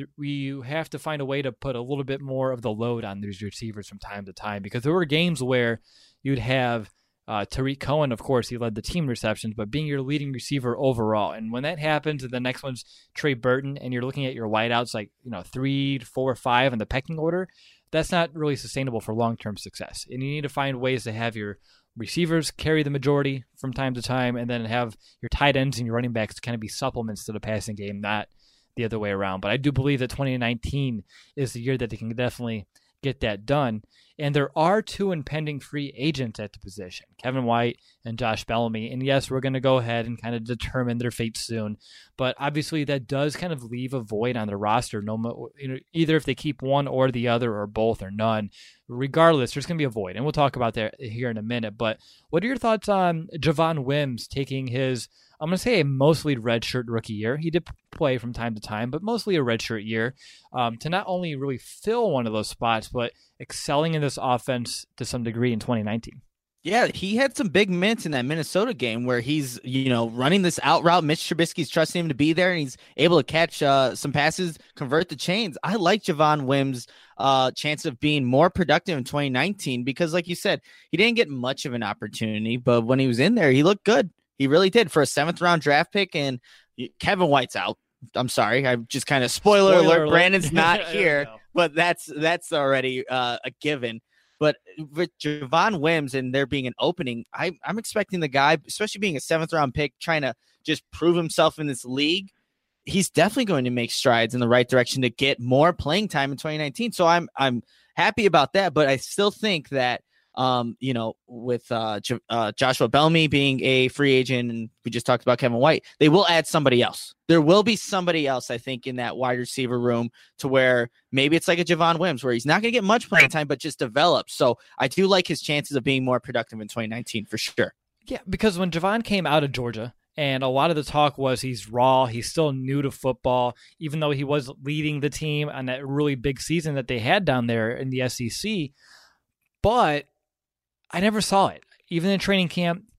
we have to find a way to put a little bit more of the load on these receivers from time to time, because there were games where you'd have uh, Tariq Cohen, of course, he led the team receptions, but being your leading receiver overall. And when that happens, the next one's Trey Burton, and you're looking at your wideouts like, you know, three, four, five in the pecking order, that's not really sustainable for long-term success. And you need to find ways to have your receivers carry the majority from time to time, and then have your tight ends and your running backs kind of be supplements to the passing game, not the other way around. But I do believe that twenty nineteen is the year that they can definitely get that done. And there are two impending free agents at the position, Kevin White and Josh Bellamy. And yes, we're going to go ahead and kind of determine their fate soon. But obviously that does kind of leave a void on the roster, no, you know, either if they keep one or the other or both or none. Regardless, there's going to be a void. And we'll talk about that here in a minute. But what are your thoughts on Javon Wims taking his, I'm going to say a mostly redshirt rookie year. He did play from time to time, but mostly a redshirt year, um, to not only really fill one of those spots, but excelling in this offense to some degree in twenty nineteen. Yeah, he had some big minutes in that Minnesota game where he's, you know, running this out route. Mitch Trubisky's trusting him to be there, and he's able to catch uh, some passes, convert the chains. I like Javon Wims' uh, chance of being more productive in twenty nineteen because, like you said, he didn't get much of an opportunity, but when he was in there, he looked good. He really did for a seventh round draft pick, and Kevin White's out. I'm sorry. I just kind of spoiler, spoiler alert. alert. Brandon's not here, but that's that's already uh, a given. But with Javon Wims and there being an opening, I, I'm expecting the guy, especially being a seventh round pick, trying to just prove himself in this league. He's definitely going to make strides in the right direction to get more playing time in twenty nineteen. So I'm I'm happy about that, but I still think that. Um, you know, with uh, J- uh, Joshua Bellamy being a free agent, and we just talked about Kevin White, they will add somebody else. There will be somebody else, I think, in that wide receiver room to where maybe it's like a Javon Wims, where he's not going to get much playing time, but just develop. So I do like his chances of being more productive in twenty nineteen for sure. Yeah, because when Javon came out of Georgia, and a lot of the talk was he's raw, he's still new to football, even though he was leading the team on that really big season that they had down there in the S E C. But I never saw it. Even in training camp,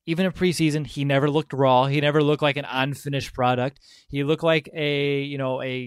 even in preseason, he never looked raw. He never looked like an unfinished product. He looked like a, you know, a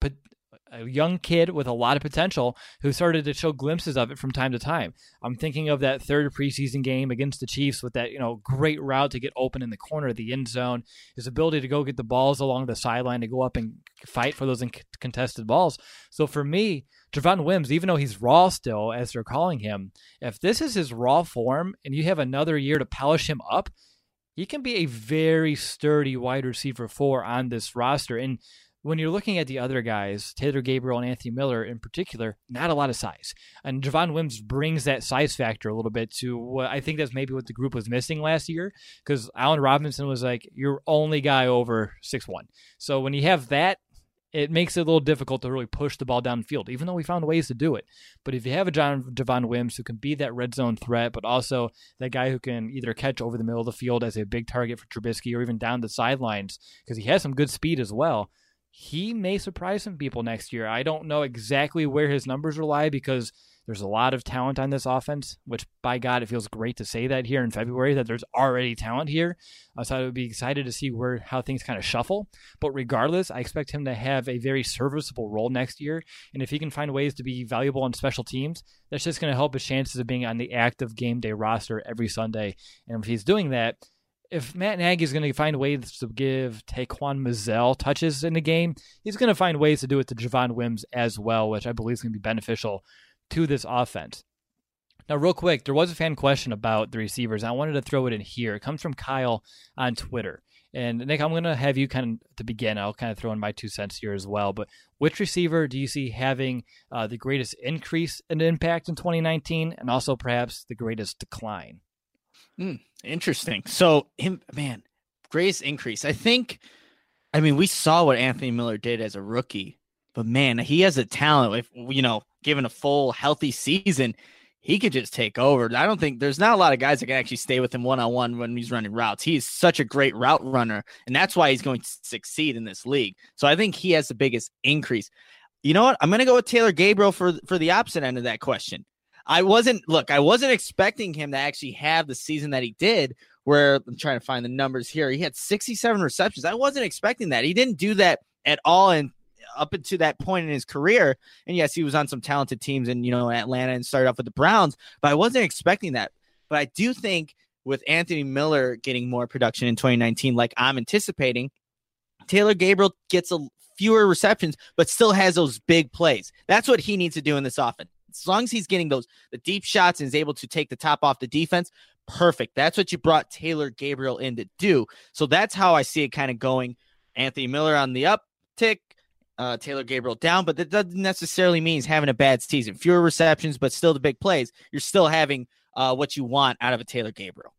a young kid with a lot of potential who started to show glimpses of it from time to time. I'm thinking of that third preseason game against the Chiefs with that, you know, great route to get open in the corner of the end zone, his ability to go get the balls along the sideline to go up and fight for those contested balls. So for me, Javon Wims, even though he's raw still, as they're calling him, if this is his raw form and you have another year to polish him up, he can be a very sturdy wide receiver four on this roster. And when you're looking at the other guys, Taylor Gabriel and Anthony Miller in particular, not a lot of size. And Javon Wims brings that size factor a little bit to what I think that's maybe what the group was missing last year, because Allen Robinson was like your only guy over six one. So when you have that, it makes it a little difficult to really push the ball downfield, even though we found ways to do it. But if you have a John Javon Wims who can be that red zone threat, but also that guy who can either catch over the middle of the field as a big target for Trubisky or even down the sidelines, because he has some good speed as well, he may surprise some people next year. I don't know exactly where his numbers will lie because there's a lot of talent on this offense, which by God, it feels great to say that here in February, that there's already talent here. Uh, so I would be excited to see where how things kind of shuffle. But regardless, I expect him to have a very serviceable role next year. And if he can find ways to be valuable on special teams, that's just going to help his chances of being on the active game day roster every Sunday. And if he's doing that, if Matt Nagy is going to find ways to give Taquan Mizzell touches in the game, he's going to find ways to do it to Javon Wims as well, which I believe is going to be beneficial to this offense. Now, real quick, there was a fan question about the receivers. I wanted to throw it in here. It comes from Kyle on Twitter. And Nick, I'm going to have you kind of, to begin, I'll kind of throw in my two cents here as well. But which receiver do you see having uh, the greatest increase in impact in twenty nineteen and also perhaps the greatest decline? Mm, interesting. So, him, man, greatest increase. I think, I mean, we saw what Anthony Miller did as a rookie, but man, he has a talent. If, you know, given a full healthy season, he could just take over. I don't think there's not a lot of guys that can actually stay with him one-on-one when he's running routes. He's such a great route runner, and that's why he's going to succeed in this league. So I think he has the biggest increase. You know what? I'm going to go with Taylor Gabriel for, for the opposite end of that question. I wasn't, look, I wasn't expecting him to actually have the season that he did, where I'm trying to find the numbers here. He had sixty-seven receptions. I wasn't expecting that. He didn't do that at all in up until that point in his career. And yes, he was on some talented teams in, you know, Atlanta and started off with the Browns, but I wasn't expecting that. But I do think with Anthony Miller getting more production in twenty nineteen, like I'm anticipating, Taylor Gabriel gets a fewer receptions, but still has those big plays. That's what he needs to do in this offense. As long as he's getting those the deep shots and is able to take the top off the defense, perfect. That's what you brought Taylor Gabriel in to do. So that's how I see it kind of going. Anthony Miller on the uptick, uh, Taylor Gabriel down, but that doesn't necessarily mean he's having a bad season. Fewer receptions, but still the big plays. You're still having uh, what you want out of a Taylor Gabriel.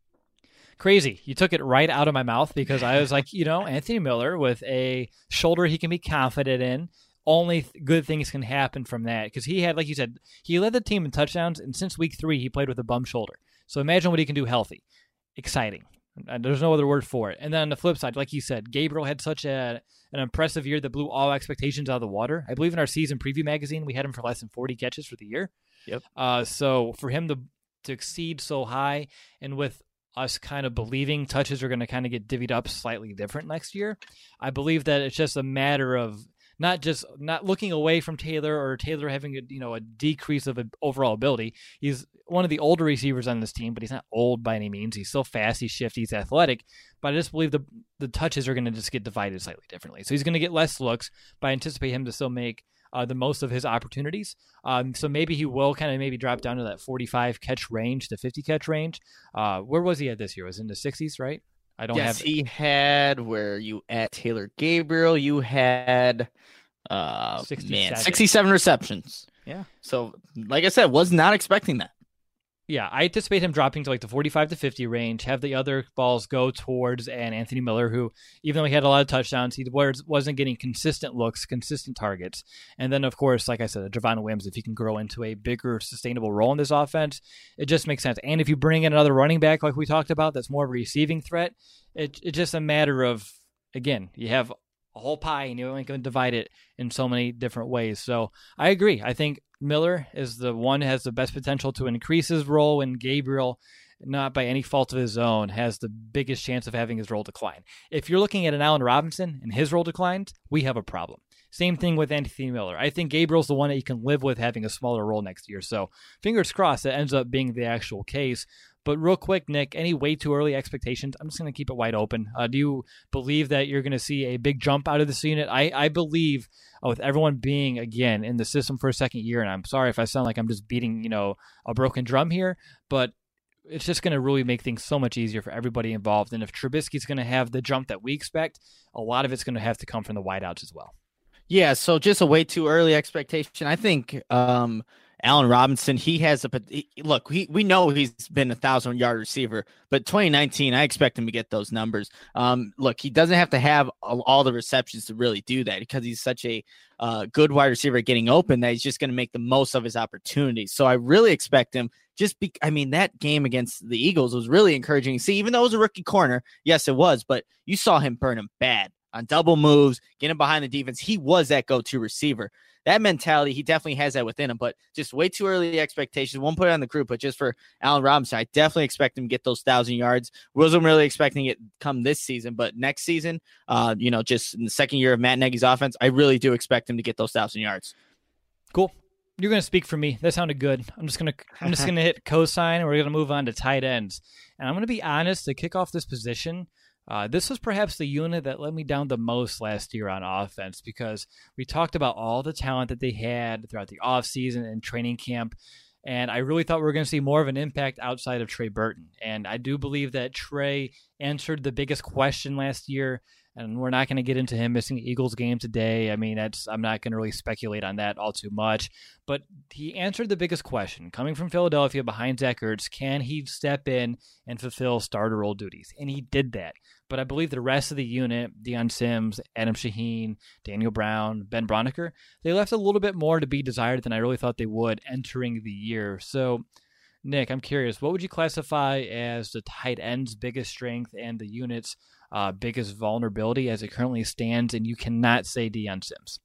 Crazy. You took it right out of my mouth because I was like, you know, Anthony Miller with a shoulder he can be confident in. Only th- good things can happen from that because he had, like you said, he led the team in touchdowns, and since week three, he played with a bum shoulder. So imagine what he can do healthy. Exciting. And there's no other word for it. And then on the flip side, like you said, Gabriel had such a, an impressive year that blew all expectations out of the water. I believe in our season preview magazine, we had him for less than forty catches for the year. Yep. Uh, so for him to, to exceed so high, and with us kind of believing touches are going to kind of get divvied up slightly different next year, I believe that it's just a matter of not just not looking away from Taylor or Taylor having a, you know, a decrease of overall ability. He's one of the older receivers on this team, but he's not old by any means. He's still fast, he's shifty, he's athletic, but I just believe the the touches are going to just get divided slightly differently. So he's going to get less looks, but I anticipate him to still make uh, the most of his opportunities. Um, so maybe he will kind of maybe drop down to that forty-five catch range to fifty catch range. Uh, where was he at this year? Was it in the sixties, right? I don't yes, have. He had where you at Taylor Gabriel, you had uh man, sixty-seven receptions. Yeah. So like I said, was not expecting that. Yeah, I anticipate him dropping to like the forty-five to fifty range, have the other balls go towards an Anthony Miller, who, even though he had a lot of touchdowns, he wasn't getting consistent looks, consistent targets. And then, of course, like I said, Javon Wims, if he can grow into a bigger, sustainable role in this offense, it just makes sense. And if you bring in another running back, like we talked about, that's more of a receiving threat, it, it's just a matter of, again, you have a whole pie and you're only going to divide it in so many different ways. So I agree. I think Miller is the one who has the best potential to increase his role, and Gabriel not by any fault of his own, has the biggest chance of having his role decline. If you're looking at an Allen Robinson and his role declined, we have a problem. Same thing with Anthony Miller. I think Gabriel's the one that you can live with having a smaller role next year. So fingers crossed that ends up being the actual case. But real quick, Nick, any way too early expectations? I'm just going to keep it wide open. Uh, do you believe that you're going to see a big jump out of this unit? I, I believe uh, with everyone being, again, in the system for a second year, and I'm sorry if I sound like I'm just beating, you know, a broken drum here, but it's just going to really make things so much easier for everybody involved. And if Trubisky's going to have the jump that we expect, a lot of it's going to have to come from the wideouts as well. Yeah, so just a way too early expectation. I think um, Allen Robinson, he has a look. He, we know he's been a thousand yard receiver, but twenty nineteen, I expect him to get those numbers. Um, look, he doesn't have to have all, all the receptions to really do that because he's such a uh, good wide receiver getting open that he's just going to make the most of his opportunities. So I really expect him. Just be, I mean, that game against the Eagles was really encouraging to see. Even though it was a rookie corner, yes, it was, but you saw him burn him bad on double moves, getting behind the defense. He was that go-to receiver. That mentality, he definitely has that within him, but just way too early expectations. Won't put it on the group, but just for Allen Robinson, I definitely expect him to get those thousand yards. Wasn't really expecting it come this season, but next season, uh, you know, just in the second year of Matt Nagy's offense, I really do expect him to get those thousand yards. Cool. You're going to speak for me. That sounded good. I'm just going to I'm just going to hit cosign, and we're going to move on to tight ends. And I'm going to be honest, to kick off this position, Uh, this was perhaps the unit that let me down the most last year on offense because we talked about all the talent that they had throughout the offseason and training camp, and I really thought we were going to see more of an impact outside of Trey Burton. And I do believe that Trey answered the biggest question last year, and we're not going to get into him missing the Eagles game today. I mean, that's I'm not going to really speculate on that all too much, but he answered the biggest question. Coming from Philadelphia behind Zach Ertz, can he step in and fulfill starter role duties? And he did that. But I believe the rest of the unit, Deion Sims, Adam Shaheen, Daniel Brown, Ben Broniker, they left a little bit more to be desired than I really thought they would entering the year. So, Nick, I'm curious, what would you classify as the tight end's biggest strength and the unit's uh, biggest vulnerability as it currently stands? And you cannot say Deion Sims.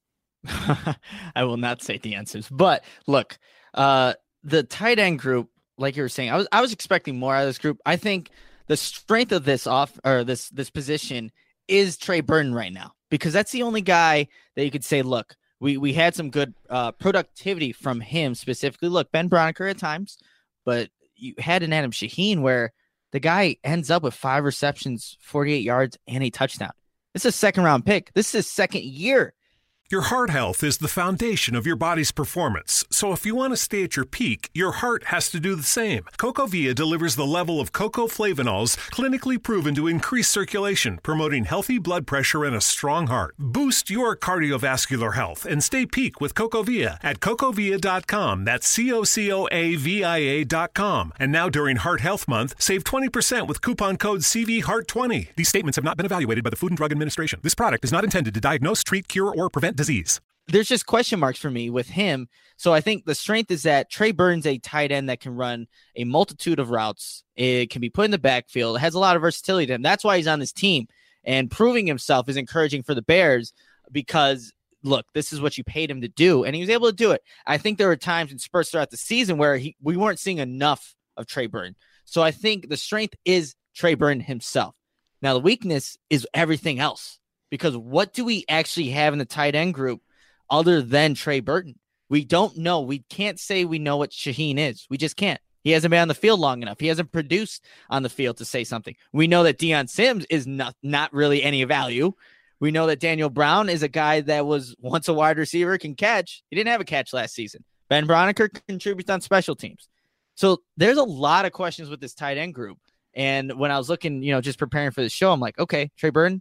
I will not say Deion Sims. But look, uh, the tight end group, like you were saying, I was I was expecting more out of this group. I think the strength of this off or this this position is Trey Burton right now, because that's the only guy that you could say, look, we we had some good uh, productivity from him specifically. Look, Ben Broniker at times, but you had an Adam Shaheen where the guy ends up with five receptions, forty-eight yards, and a touchdown. This is a second round pick. This is his second year. Your heart health is the foundation of your body's performance. So if you want to stay at your peak, your heart has to do the same. CocoVia delivers the level of cocoflavanols clinically proven to increase circulation, promoting healthy blood pressure and a strong heart. Boost your cardiovascular health and stay peak with CocoVia at cocovia dot com. That's C O C O A V I A dot com. And now during Heart Health Month, save twenty percent with coupon code C V Heart twenty. These statements have not been evaluated by the Food and Drug Administration. This product is not intended to diagnose, treat, cure, or prevent disease. There's just question marks for me with him. So I think the strength is that Trey Burton's a tight end that can run a multitude of routes. It can be put in the backfield. It has a lot of versatility to him. That's why he's on this team. And proving himself is encouraging for the Bears because, look, this is what you paid him to do. And he was able to do it. I think there were times in spurts throughout the season where he, we weren't seeing enough of Trey Burton. So I think the strength is Trey Burton himself. Now, the weakness is everything else. Because what do we actually have in the tight end group other than Trey Burton? We don't know. We can't say we know what Shaheen is. We just can't. He hasn't been on the field long enough. He hasn't produced on the field to say something. We know that Deion Sims is not, not really any value. We know that Daniel Brown is a guy that was once a wide receiver, can catch. He didn't have a catch last season. Ben Broniker contributes on special teams. So there's a lot of questions with this tight end group. And when I was looking, you know, just preparing for the show, I'm like, okay, Trey Burton.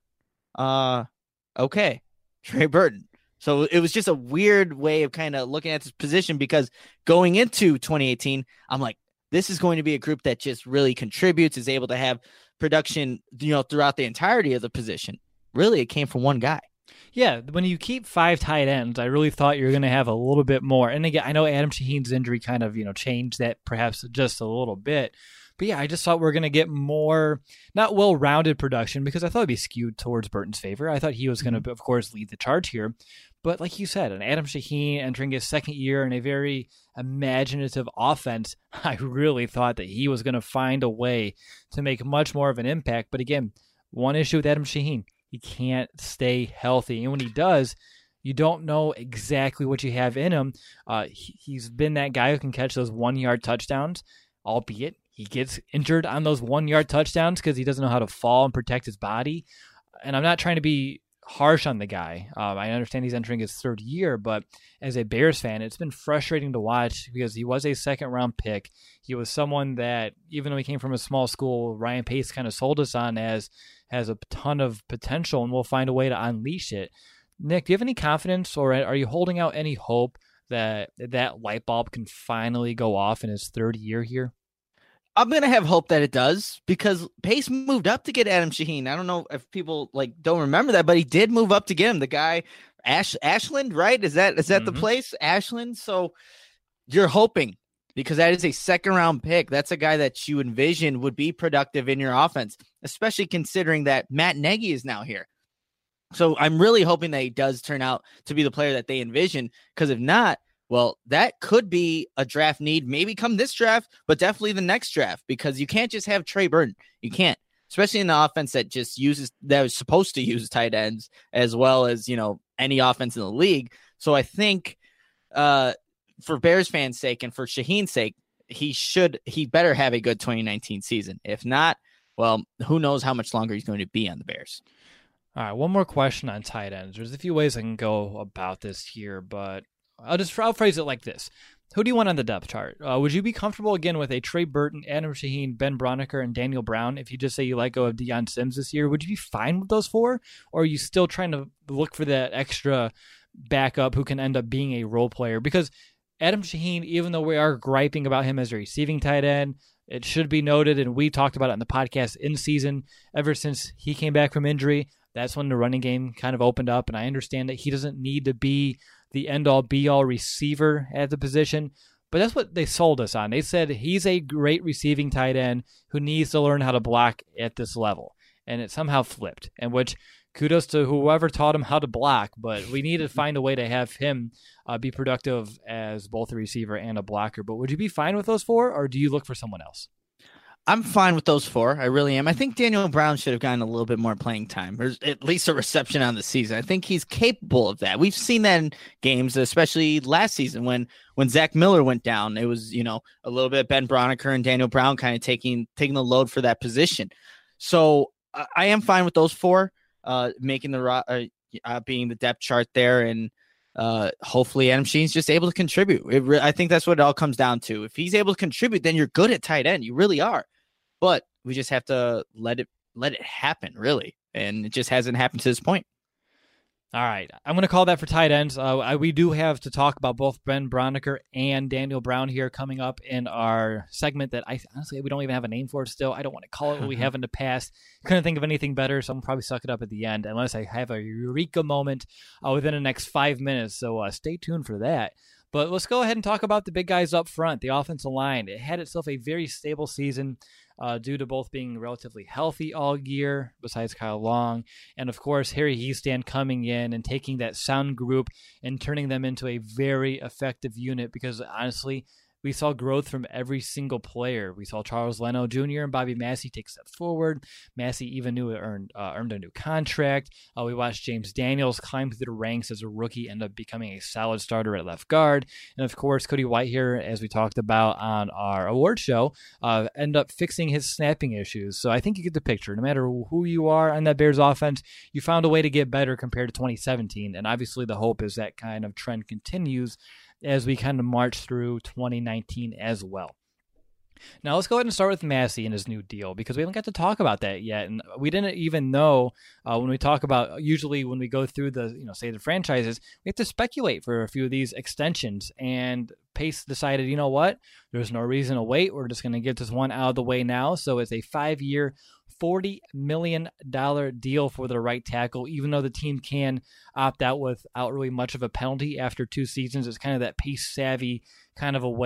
Uh, okay, Trey Burton. So it was just a weird way of kind of looking at this position because going into twenty eighteen, I'm like, this is going to be a group that just really contributes, is able to have production, you know, throughout the entirety of the position. Really, it came from one guy. Yeah, when you keep five tight ends, I really thought you were going to have a little bit more. And again, I know Adam Shaheen's injury kind of, you know, changed that perhaps just a little bit. But yeah, I just thought we are going to get more, not well-rounded production, because I thought it'd be skewed towards Burton's favor. I thought he was going to, of course, lead the charge here. But like you said, an Adam Shaheen entering his second year in a very imaginative offense, I really thought that he was going to find a way to make much more of an impact. But again, one issue with Adam Shaheen, he can't stay healthy. And when he does, you don't know exactly what you have in him. Uh, he, he's been that guy who can catch those one-yard touchdowns, albeit he gets injured on those one-yard touchdowns because he doesn't know how to fall and protect his body. And I'm not trying to be harsh on the guy. Um, I understand he's entering his third year, but as a Bears fan, it's been frustrating to watch because he was a second-round pick. He was someone that, even though he came from a small school, Ryan Pace kind of sold us on as has a ton of potential, and we'll find a way to unleash it. Nick, do you have any confidence, or are you holding out any hope that that light bulb can finally go off in his third year here? I'm going to have hope that it does, because Pace moved up to get Adam Shaheen. I don't know if people like don't remember that, but he did move up to get him. The guy, Ash Ashland, right? Is that is that mm-hmm. the place? Ashland. So you're hoping, because that is a second round pick. That's a guy that you envision would be productive in your offense, especially considering that Matt Nagy is now here. So I'm really hoping that he does turn out to be the player that they envision, because if not, well, that could be a draft need, maybe come this draft, but definitely the next draft, because you can't just have Trey Burton. You can't, especially in the offense that just uses, that was supposed to use tight ends as well as, you know, any offense in the league. So I think uh, for Bears fans' sake and for Shaheen's sake, he should, he better have a good twenty nineteen season. If not, well, who knows how much longer he's going to be on the Bears. All right, one more question on tight ends. There's a few ways I can go about this here, but I'll just I'll phrase it like this. Who do you want on the depth chart? Uh, would you be comfortable, again, with a Trey Burton, Adam Shaheen, Ben Braunecker, and Daniel Brown if you just say you let go of Deion Sims this year? Would you be fine with those four? Or are you still trying to look for that extra backup who can end up being a role player? Because Adam Shaheen, even though we are griping about him as a receiving tight end, it should be noted, and we talked about it on the podcast in season, ever since he came back from injury, that's when the running game kind of opened up, and I understand that he doesn't need to be the end-all, be-all receiver at the position, but that's what they sold us on. They said he's a great receiving tight end who needs to learn how to block at this level, and it somehow flipped, and which kudos to whoever taught him how to block, but we need to find a way to have him uh, be productive as both a receiver and a blocker. But would you be fine with those four, or do you look for someone else? I'm fine with those four. I really am. I think Daniel Brown should have gotten a little bit more playing time, or at least a reception on the season. I think he's capable of that. We've seen that in games, especially last season when when Zach Miller went down. It was, you know, a little bit Ben Braunecker and Daniel Brown kind of taking taking the load for that position. So uh, I am fine with those four, uh, making the uh, uh, being the depth chart there, and uh, hopefully Adam Shaheen's just able to contribute. It re- I think that's what it all comes down to. If he's able to contribute, then you're good at tight end. You really are. But we just have to let it let it happen, really. And it just hasn't happened to this point. All right. I'm going to call that for tight ends. Uh, I, we do have to talk about both Ben Braunecker and Daniel Brown here coming up in our segment that I honestly, we don't even have a name for it still. I don't want to call it what we have in the past. Couldn't think of anything better, so I'm probably suck it up at the end unless I have a eureka moment uh, within the next five minutes. So uh, stay tuned for that. But let's go ahead and talk about the big guys up front, the offensive line. It had itself a very stable season uh, due to both being relatively healthy all year, besides Kyle Long, and of course Harry Hiestand coming in and taking that sound group and turning them into a very effective unit, because honestly, we saw growth from every single player. We saw Charles Leno Junior and Bobby Massey take steps forward. Massey even knew it earned, uh, earned a new contract. Uh, we watched James Daniels climb through the ranks as a rookie, end up becoming a solid starter at left guard. And of course, Cody Whitehair, as we talked about on our award show, uh, end up fixing his snapping issues. So I think you get the picture. No matter who you are on that Bears offense, you found a way to get better compared to twenty seventeen. And obviously the hope is that kind of trend continues as we kind of march through twenty nineteen as well. Now let's go ahead and start with Massey and his new deal, because we haven't got to talk about that yet, and we didn't even know uh, when we talk about, usually when we go through the, you know, say the franchises, we have to speculate for a few of these extensions, and Pace decided, you know what, there's no reason to wait, we're just going to get this one out of the way now. So it's a five-year, forty million dollars deal for the right tackle, even though the team can opt out without really much of a penalty after two seasons. It's kind of that Pace savvy kind of a way of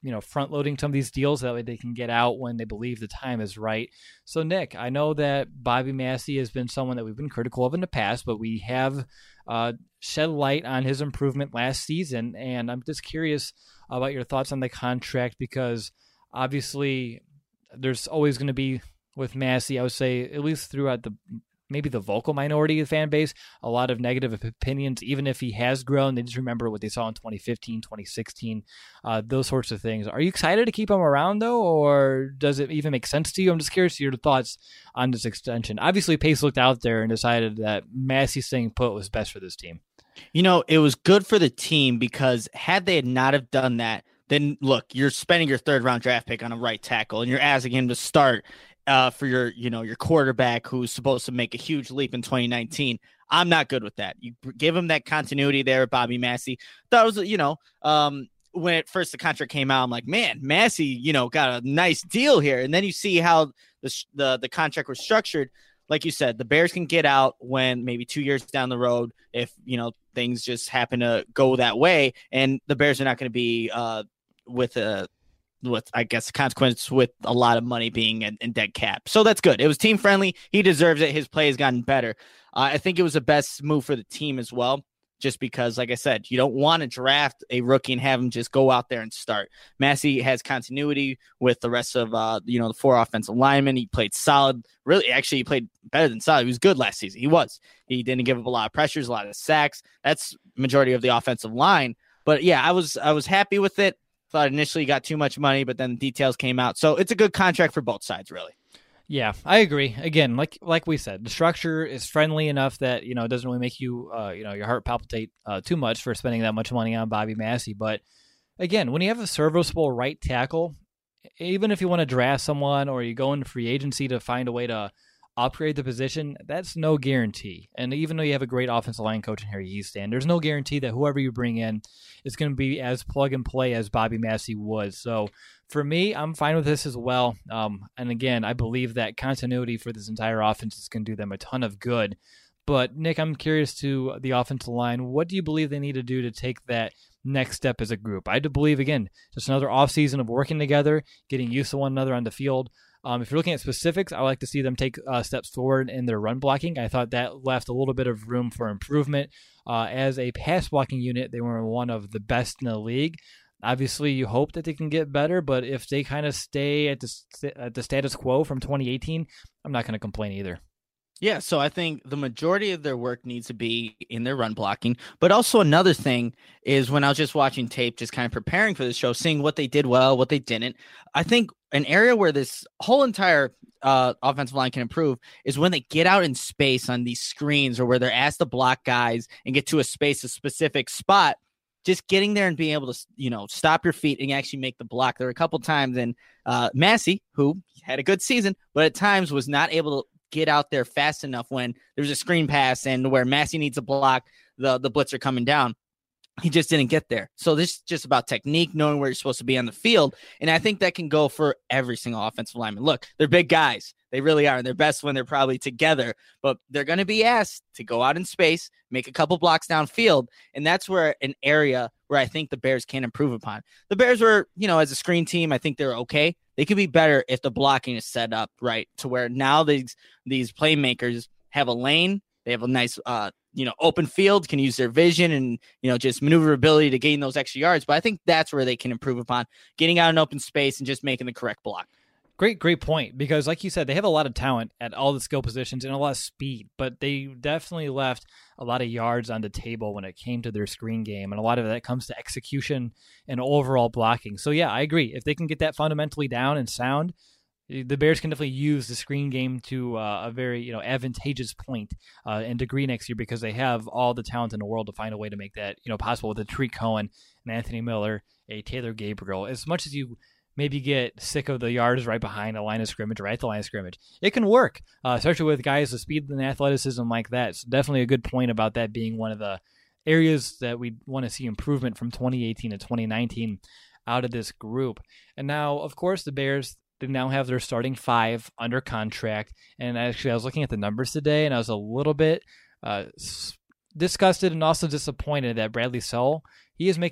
you know, front loading some of these deals that way they can get out when they believe the time is right. So Nick, I know that Bobby Massie has been someone that we've been critical of in the past, but we have uh, shed light on his improvement last season. And I'm just curious about your thoughts on the contract, because obviously there's always going to be with Massie, I would say, at least throughout the maybe the vocal minority of the fan base, a lot of negative opinions, even if he has grown. They just remember what they saw in twenty fifteen, twenty sixteen, uh, those sorts of things. Are you excited to keep him around, though, or does it even make sense to you? I'm just curious to your thoughts on this extension. Obviously, Pace looked out there and decided that Massie staying put was best for this team. You know, it was good for the team, because had they not have done that, then look, you're spending your third round draft pick on a right tackle and you're asking him to start Uh, for your, you know, your quarterback who's supposed to make a huge leap in twenty nineteen. I'm not good with that. You give him that continuity there, Bobby Massie. That was, you know, um, when at first the contract came out, I'm like, man, Massie, you know, got a nice deal here. And then you see how the the the contract was structured. Like you said, the Bears can get out when maybe two years down the road, if, you know, things just happen to go that way, and the Bears are not going to be uh, with a with, I guess, the consequence with a lot of money being in, in dead cap. So that's good. It was team friendly. He deserves it. His play has gotten better. Uh, I think it was the best move for the team as well, just because, like I said, you don't want to draft a rookie and have him just go out there and start. Massie has continuity with the rest of, uh, you know, the four offensive linemen. He played solid. Really, actually, he played better than solid. He was good last season. He was. He didn't give up a lot of pressures, a lot of sacks. That's majority of the offensive line. But yeah, I was I was happy with it. Thought initially he got too much money, but then the details came out. So it's a good contract for both sides, really. Yeah, I agree. Again, like like we said, the structure is friendly enough that, you know, it doesn't really make you, uh, you know, your heart palpitate uh, too much for spending that much money on Bobby Massie. But again, when you have a serviceable right tackle, even if you want to draft someone or you go into free agency to find a way to upgrade the position, that's no guarantee. And even though you have a great offensive line coach in Harry Easton, there's no guarantee that whoever you bring in is going to be as plug and play as Bobby Massie was. So for me, I'm fine with this as well. Um, and again, I believe that continuity for this entire offense is going to do them a ton of good. But Nick, I'm curious to the offensive line. What do you believe they need to do to take that next step as a group? I do believe, again, just another offseason of working together, getting used to one another on the field. Um, if you're looking at specifics, I like to see them take uh, steps forward in their run blocking. I thought that left a little bit of room for improvement. Uh, as a pass blocking unit, they were one of the best in the league. Obviously, you hope that they can get better, but if they kind of stay at the, at the status quo from twenty eighteen, I'm not going to complain either. Yeah, so I think the majority of their work needs to be in their run blocking. But also another thing is when I was just watching tape, just kind of preparing for the show, seeing what they did well, what they didn't. I think an area where this whole entire uh, offensive line can improve is when they get out in space on these screens, or where they're asked to block guys and get to a space, a specific spot. Just getting there and being able to, you know, stop your feet and actually make the block. There were a couple times, and uh, Massie, who had a good season, but at times was not able to get out there fast enough when there's a screen pass and where Massie needs a block, the, the blitzer coming down. He just didn't get there. So this is just about technique, knowing where you're supposed to be on the field. And I think that can go for every single offensive lineman. Look, they're big guys. They really are. And they're best when they're probably together, but they're going to be asked to go out in space, make a couple blocks downfield. And that's where an area where I think the Bears can improve upon. The Bears were, you know, as a screen team, I think they're okay. They could be better if the blocking is set up right to where now these, these playmakers have a lane. They have a nice, uh, you know, open field, can use their vision and, you know, just maneuverability to gain those extra yards. But I think that's where they can improve upon getting out in open space and just making the correct block. Great, great point. Because like you said, they have a lot of talent at all the skill positions and a lot of speed, but they definitely left a lot of yards on the table when it came to their screen game. And a lot of that comes to execution and overall blocking. So yeah, I agree. If they can get that fundamentally down and sound, the Bears can definitely use the screen game to uh, a very, you know, advantageous point uh, and degree next year, because they have all the talent in the world to find a way to make that, you know, possible with a Tariq Cohen, an Anthony Miller, a Taylor Gabriel. As much as you maybe get sick of the yards right behind the line of scrimmage, right at the line of scrimmage, it can work, uh, especially with guys with speed and athleticism like that. It's definitely a good point about that being one of the areas that we want to see improvement from twenty eighteen to twenty nineteen out of this group. And now, of course, the Bears, they now have their starting five under contract. And actually, I was looking at the numbers today, and I was a little bit uh, disgusted and also disappointed that Bradley Sowell, he is making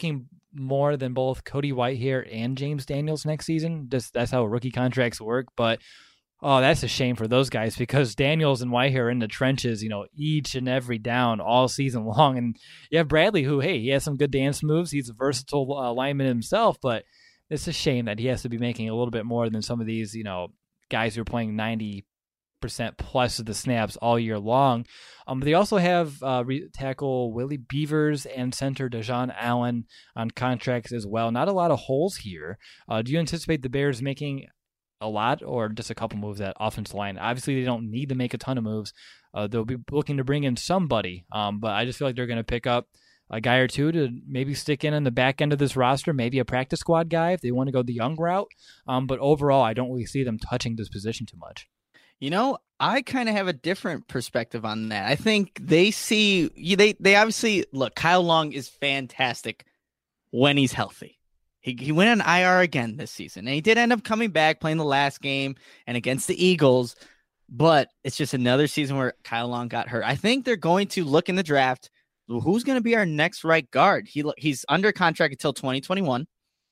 more than both Cody Whitehair and James Daniels next season. Just that's how rookie contracts work. But oh, that's a shame for those guys because Daniels and Whitehair are in the trenches, you know, each and every down all season long. And you have Bradley, who, hey, he has some good dance moves. He's a versatile uh, lineman himself, but it's a shame that he has to be making a little bit more than some of these, you know, guys who are playing ninety percent plus of the snaps all year long. Um, but they also have uh, re- tackle Willie Beavers and center Dejon Allen on contracts as well. Not a lot of holes here. Uh, do you anticipate the Bears making a lot or just a couple moves at offensive line? Obviously, they don't need to make a ton of moves. Uh, they'll be looking to bring in somebody, um, but I just feel like they're going to pick up a guy or two to maybe stick in on the back end of this roster, maybe a practice squad guy if they want to go the young route. Um, but overall, I don't really see them touching this position too much. You know, I kind of have a different perspective on that. I think they see they they obviously look. Kyle Long is fantastic when he's healthy. He he went on I R again this season, and he did end up coming back playing the last game and against the Eagles. But it's just another season where Kyle Long got hurt. I think they're going to look in the draft. Who's going to be our next right guard? He he's under contract until twenty twenty-one,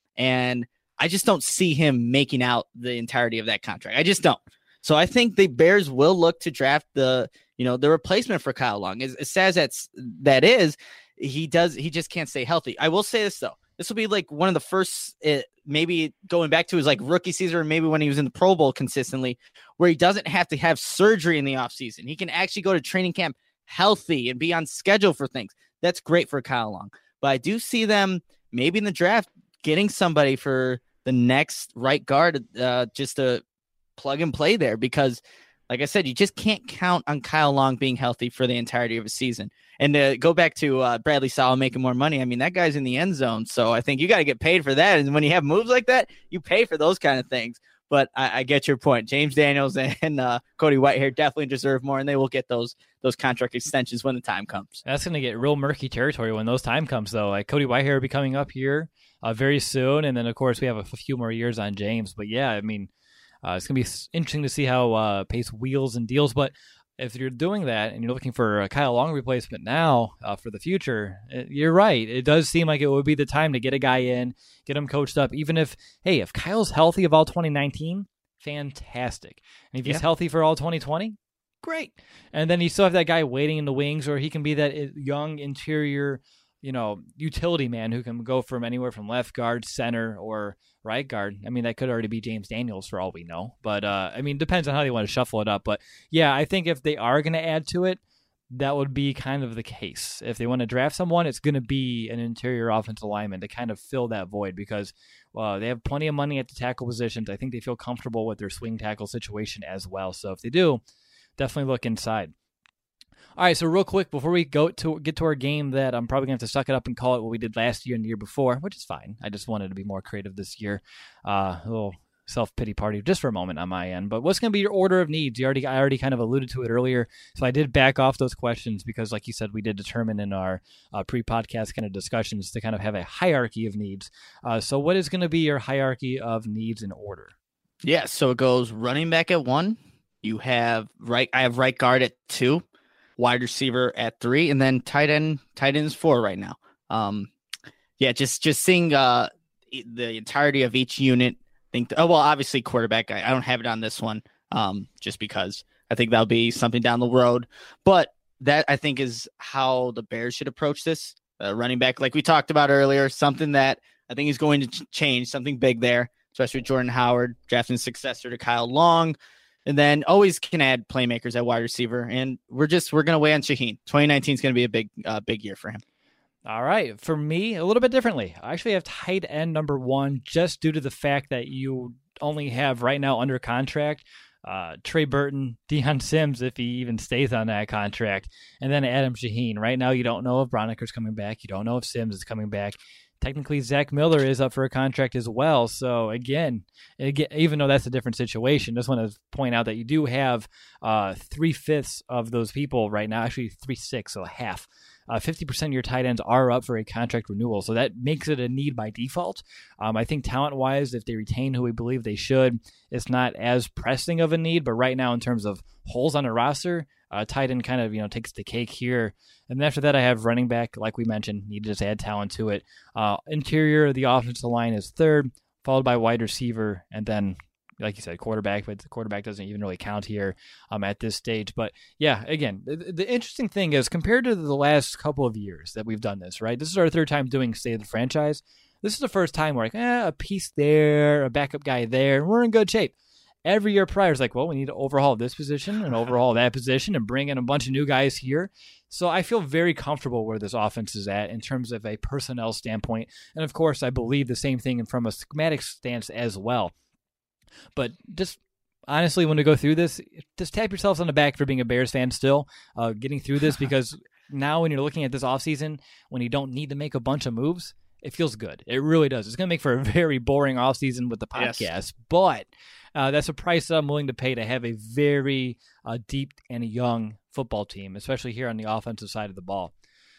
and I just don't see him making out the entirety of that contract. I just don't. So I think the Bears will look to draft the, you know, the replacement for Kyle Long. As, as sad as that's, that is, he does, he just can't stay healthy. I will say this though. This will be like one of the first, uh, maybe going back to his like rookie season, or maybe when he was in the Pro Bowl consistently, where he doesn't have to have surgery in the offseason. He can actually go to training camp healthy and be on schedule for things. That's great for Kyle Long. But I do see them maybe in the draft getting somebody for the next right guard, uh, just to plug and play there, because like I said, you just can't count on Kyle Long being healthy for the entirety of a season. And to go back to uh, Bradley Sowell making more money, I mean, that guy's in the end zone. So I think you got to get paid for that. And when you have moves like that, you pay for those kind of things. But I, I get your point. James Daniels and uh, Cody Whitehair definitely deserve more, and they will get those those contract extensions when the time comes. That's going to get real murky territory when those time comes, though. Like Cody Whitehair will be coming up here uh, very soon. And then, of course, we have a few more years on James. But, yeah, I mean, Uh, it's going to be interesting to see how uh, Pace wheels and deals. But if you're doing that and you're looking for a Kyle Long replacement now uh, for the future, it, you're right. It does seem like it would be the time to get a guy in, get him coached up. Even if, hey, if Kyle's healthy of all twenty nineteen, fantastic. And if he's yeah. healthy for all twenty twenty, great. And then you still have that guy waiting in the wings, or he can be that young interior, you know, utility man who can go from anywhere from left guard, center, or right guard. I mean, that could already be James Daniels for all we know. But, uh, I mean, depends on how they want to shuffle it up. But, yeah, I think if they are going to add to it, that would be kind of the case. If they want to draft someone, it's going to be an interior offensive lineman to kind of fill that void, because uh, they have plenty of money at the tackle positions. I think they feel comfortable with their swing tackle situation as well. So if they do, definitely look inside. All right, so real quick, before we go to get to our game that I'm probably going to have to suck it up and call it what we did last year and the year before, which is fine. I just wanted to be more creative this year. Uh, a little self-pity party just for a moment on my end. But what's going to be your order of needs? You already, I already kind of alluded to it earlier, so I did back off those questions because, like you said, we did determine in our uh, pre-podcast kind of discussions to kind of have a hierarchy of needs. Uh, so what is going to be your hierarchy of needs in order? Yeah, so it goes running back at one. You have right. I have right guard at two. Wide receiver at three, and then tight end, tight end is four right now. Um, yeah, just just seeing uh, the entirety of each unit. Think, oh well, obviously quarterback. I, I don't have it on this one, um, just because I think that'll be something down the road. But that I think is how the Bears should approach this. Uh, running back, like we talked about earlier, something that I think is going to ch- change, something big there, especially with Jordan Howard drafting successor to Kyle Long. And then always can add playmakers at wide receiver. And we're just, we're going to weigh on Shaheen. twenty nineteen is going to be a big, uh, big year for him. All right. For me, a little bit differently. I actually have tight end number one, just due to the fact that you only have right now under contract uh, Trey Burton, Deion Sims, if he even stays on that contract, and then Adam Shaheen. Right now, you don't know if Broniker's coming back. You don't know if Sims is coming back. Technically, Zach Miller is up for a contract as well. So, again, again even though that's a different situation, just want to point out that you do have uh, three-fifths of those people right now, actually three-sixths, so half. Uh, fifty percent of your tight ends are up for a contract renewal, so that makes it a need by default. Um, I think talent-wise, if they retain who we believe they should, it's not as pressing of a need, but right now in terms of holes on a roster, Uh, tight end kind of, you know, takes the cake here. And after that, I have running back, like we mentioned, need to just add talent to it. Uh, interior, the offensive line is third, followed by wide receiver, and then, like you said, quarterback, but the quarterback doesn't even really count here um, at this stage. But yeah, again, the, the interesting thing is compared to the last couple of years that we've done this, right? This is our third time doing State of the Franchise. This is the first time we're like, eh, a piece there, a backup guy there, and we're in good shape. Every year prior is like, well, we need to overhaul this position and overhaul that position and bring in a bunch of new guys here. So I feel very comfortable where this offense is at in terms of a personnel standpoint. And of course, I believe the same thing from a schematic stance as well. But just honestly, when we go through this, just tap yourselves on the back for being a Bears fan still, uh, getting through this, because now when you're looking at this offseason, when you don't need to make a bunch of moves, it feels good. It really does. It's going to make for a very boring offseason with the podcast, yes. but uh, that's a price that I'm willing to pay to have a very uh, deep and young football team, especially here on the offensive side of the ball.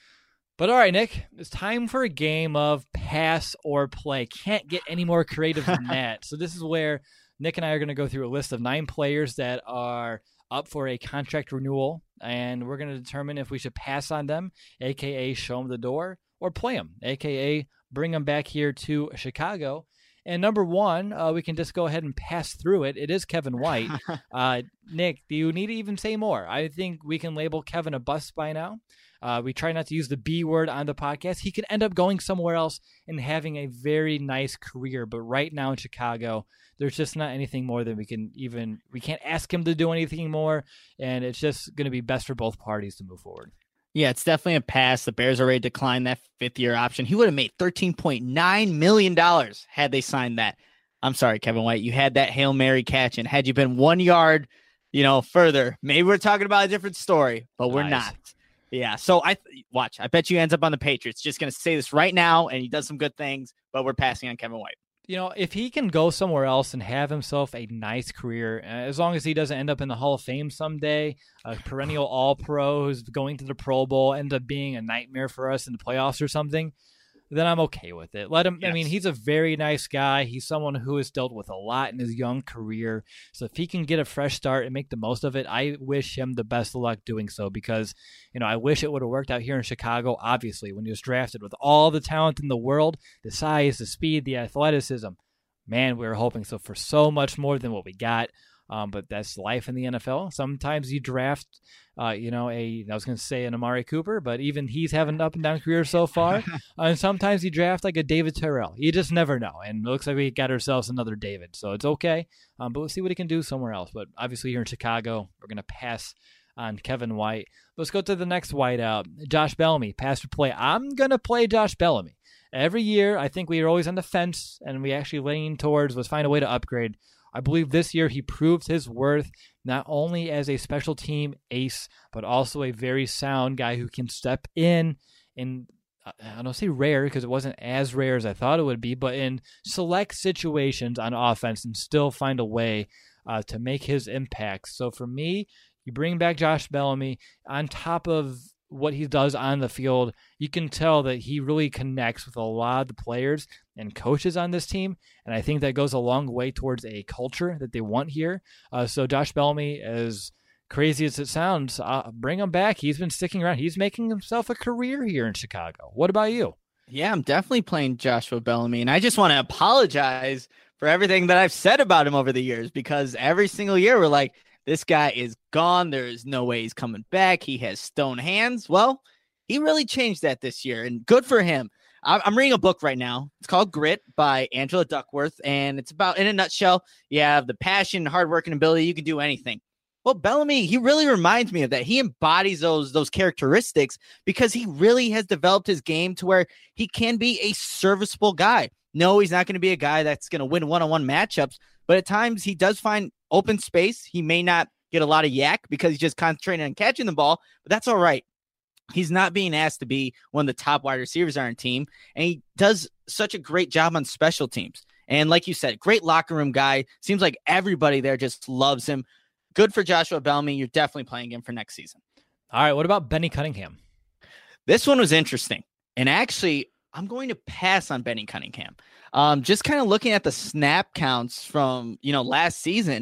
But all right, Nick, it's time for a game of pass or play. Can't get any more creative than that. So this is where Nick and I are going to go through a list of nine players that are up for a contract renewal, and we're going to determine if we should pass on them, a k a show them the door, or play them, a k a bring them back here to Chicago. And number one, uh, we can just go ahead and pass through it. It is Kevin White. uh, Nick, do you need to even say more? I think we can label Kevin a bust by now. Uh, we try not to use the B word on the podcast. He could end up going somewhere else and having a very nice career. But right now in Chicago, there's just not anything more than we can even, we can't ask him to do anything more. And it's just going to be best for both parties to move forward. Yeah, it's definitely a pass. The Bears already declined that fifth-year option. He would have made thirteen point nine million dollars had they signed that. I'm sorry, Kevin White. You had that Hail Mary catch, and had you been one yard, you know, further, maybe we're talking about a different story, but we're nice. not. Yeah, so I th- watch. I bet you ends up on the Patriots. Just going to say this right now, and he does some good things, but we're passing on Kevin White. You know, if he can go somewhere else and have himself a nice career, as long as he doesn't end up in the Hall of Fame someday, a perennial All-Pro who's going to the Pro Bowl, ends up being a nightmare for us in the playoffs or something, then I'm okay with it. Let him. Yes. I mean, he's a very nice guy. He's someone who has dealt with a lot in his young career. So if he can get a fresh start and make the most of it, I wish him the best of luck doing so, because, you know, I wish it would have worked out here in Chicago, obviously, when he was drafted with all the talent in the world, the size, the speed, the athleticism. Man, we were hoping so for so much more than what we got. Um, but that's life in the N F L. Sometimes you draft, uh, you know, a, I was going to say an Amari Cooper, but even he's having an up and down career so far. uh, and sometimes you draft like a David Terrell. You just never know. And it looks like we got ourselves another David. So it's okay. Um, but we'll see what he can do somewhere else. But obviously here in Chicago, we're going to pass on Kevin White. Let's go to the next white out. Josh Bellamy, pass or play. I'm going to play Josh Bellamy. Every year, I think we are always on the fence, and we actually lean towards, let's find a way to upgrade. I believe this year he proved his worth not only as a special team ace, but also a very sound guy who can step in in, I don't say rare because it wasn't as rare as I thought it would be, but in select situations on offense and still find a way uh, to make his impact. So for me, you bring back Josh Bellamy on top of what he does on the field. You can tell that he really connects with a lot of the players and coaches on this team, and I think that goes a long way towards a culture that they want here. Uh, so Josh Bellamy, as crazy as it sounds, uh, bring him back. He's been sticking around. He's making himself a career here in Chicago. What about you? Yeah, I'm definitely playing Joshua Bellamy, and I just want to apologize for everything that I've said about him over the years, because every single year we're like, this guy is gone. There is no way he's coming back. He has stone hands. Well, he really changed that this year, and good for him. I'm reading a book right now. It's called Grit by Angela Duckworth, and it's about, in a nutshell, you have the passion, hard work, and ability. You can do anything. Well, Bellamy, he really reminds me of that. He embodies those, those characteristics because he really has developed his game to where he can be a serviceable guy. No, he's not going to be a guy that's going to win one-on-one matchups, but at times he does find open space. He may not get a lot of yak because he's just concentrating on catching the ball, but that's all right. He's not being asked to be one of the top wide receivers on our team, and he does such a great job on special teams. And like you said, great locker room guy. Seems like everybody there just loves him. Good for Joshua Bellamy. You're definitely playing him for next season. All right, what about Benny Cunningham? This one was interesting. And actually, I'm going to pass on Benny Cunningham. Um, just kind of looking at the snap counts from, you know, last season,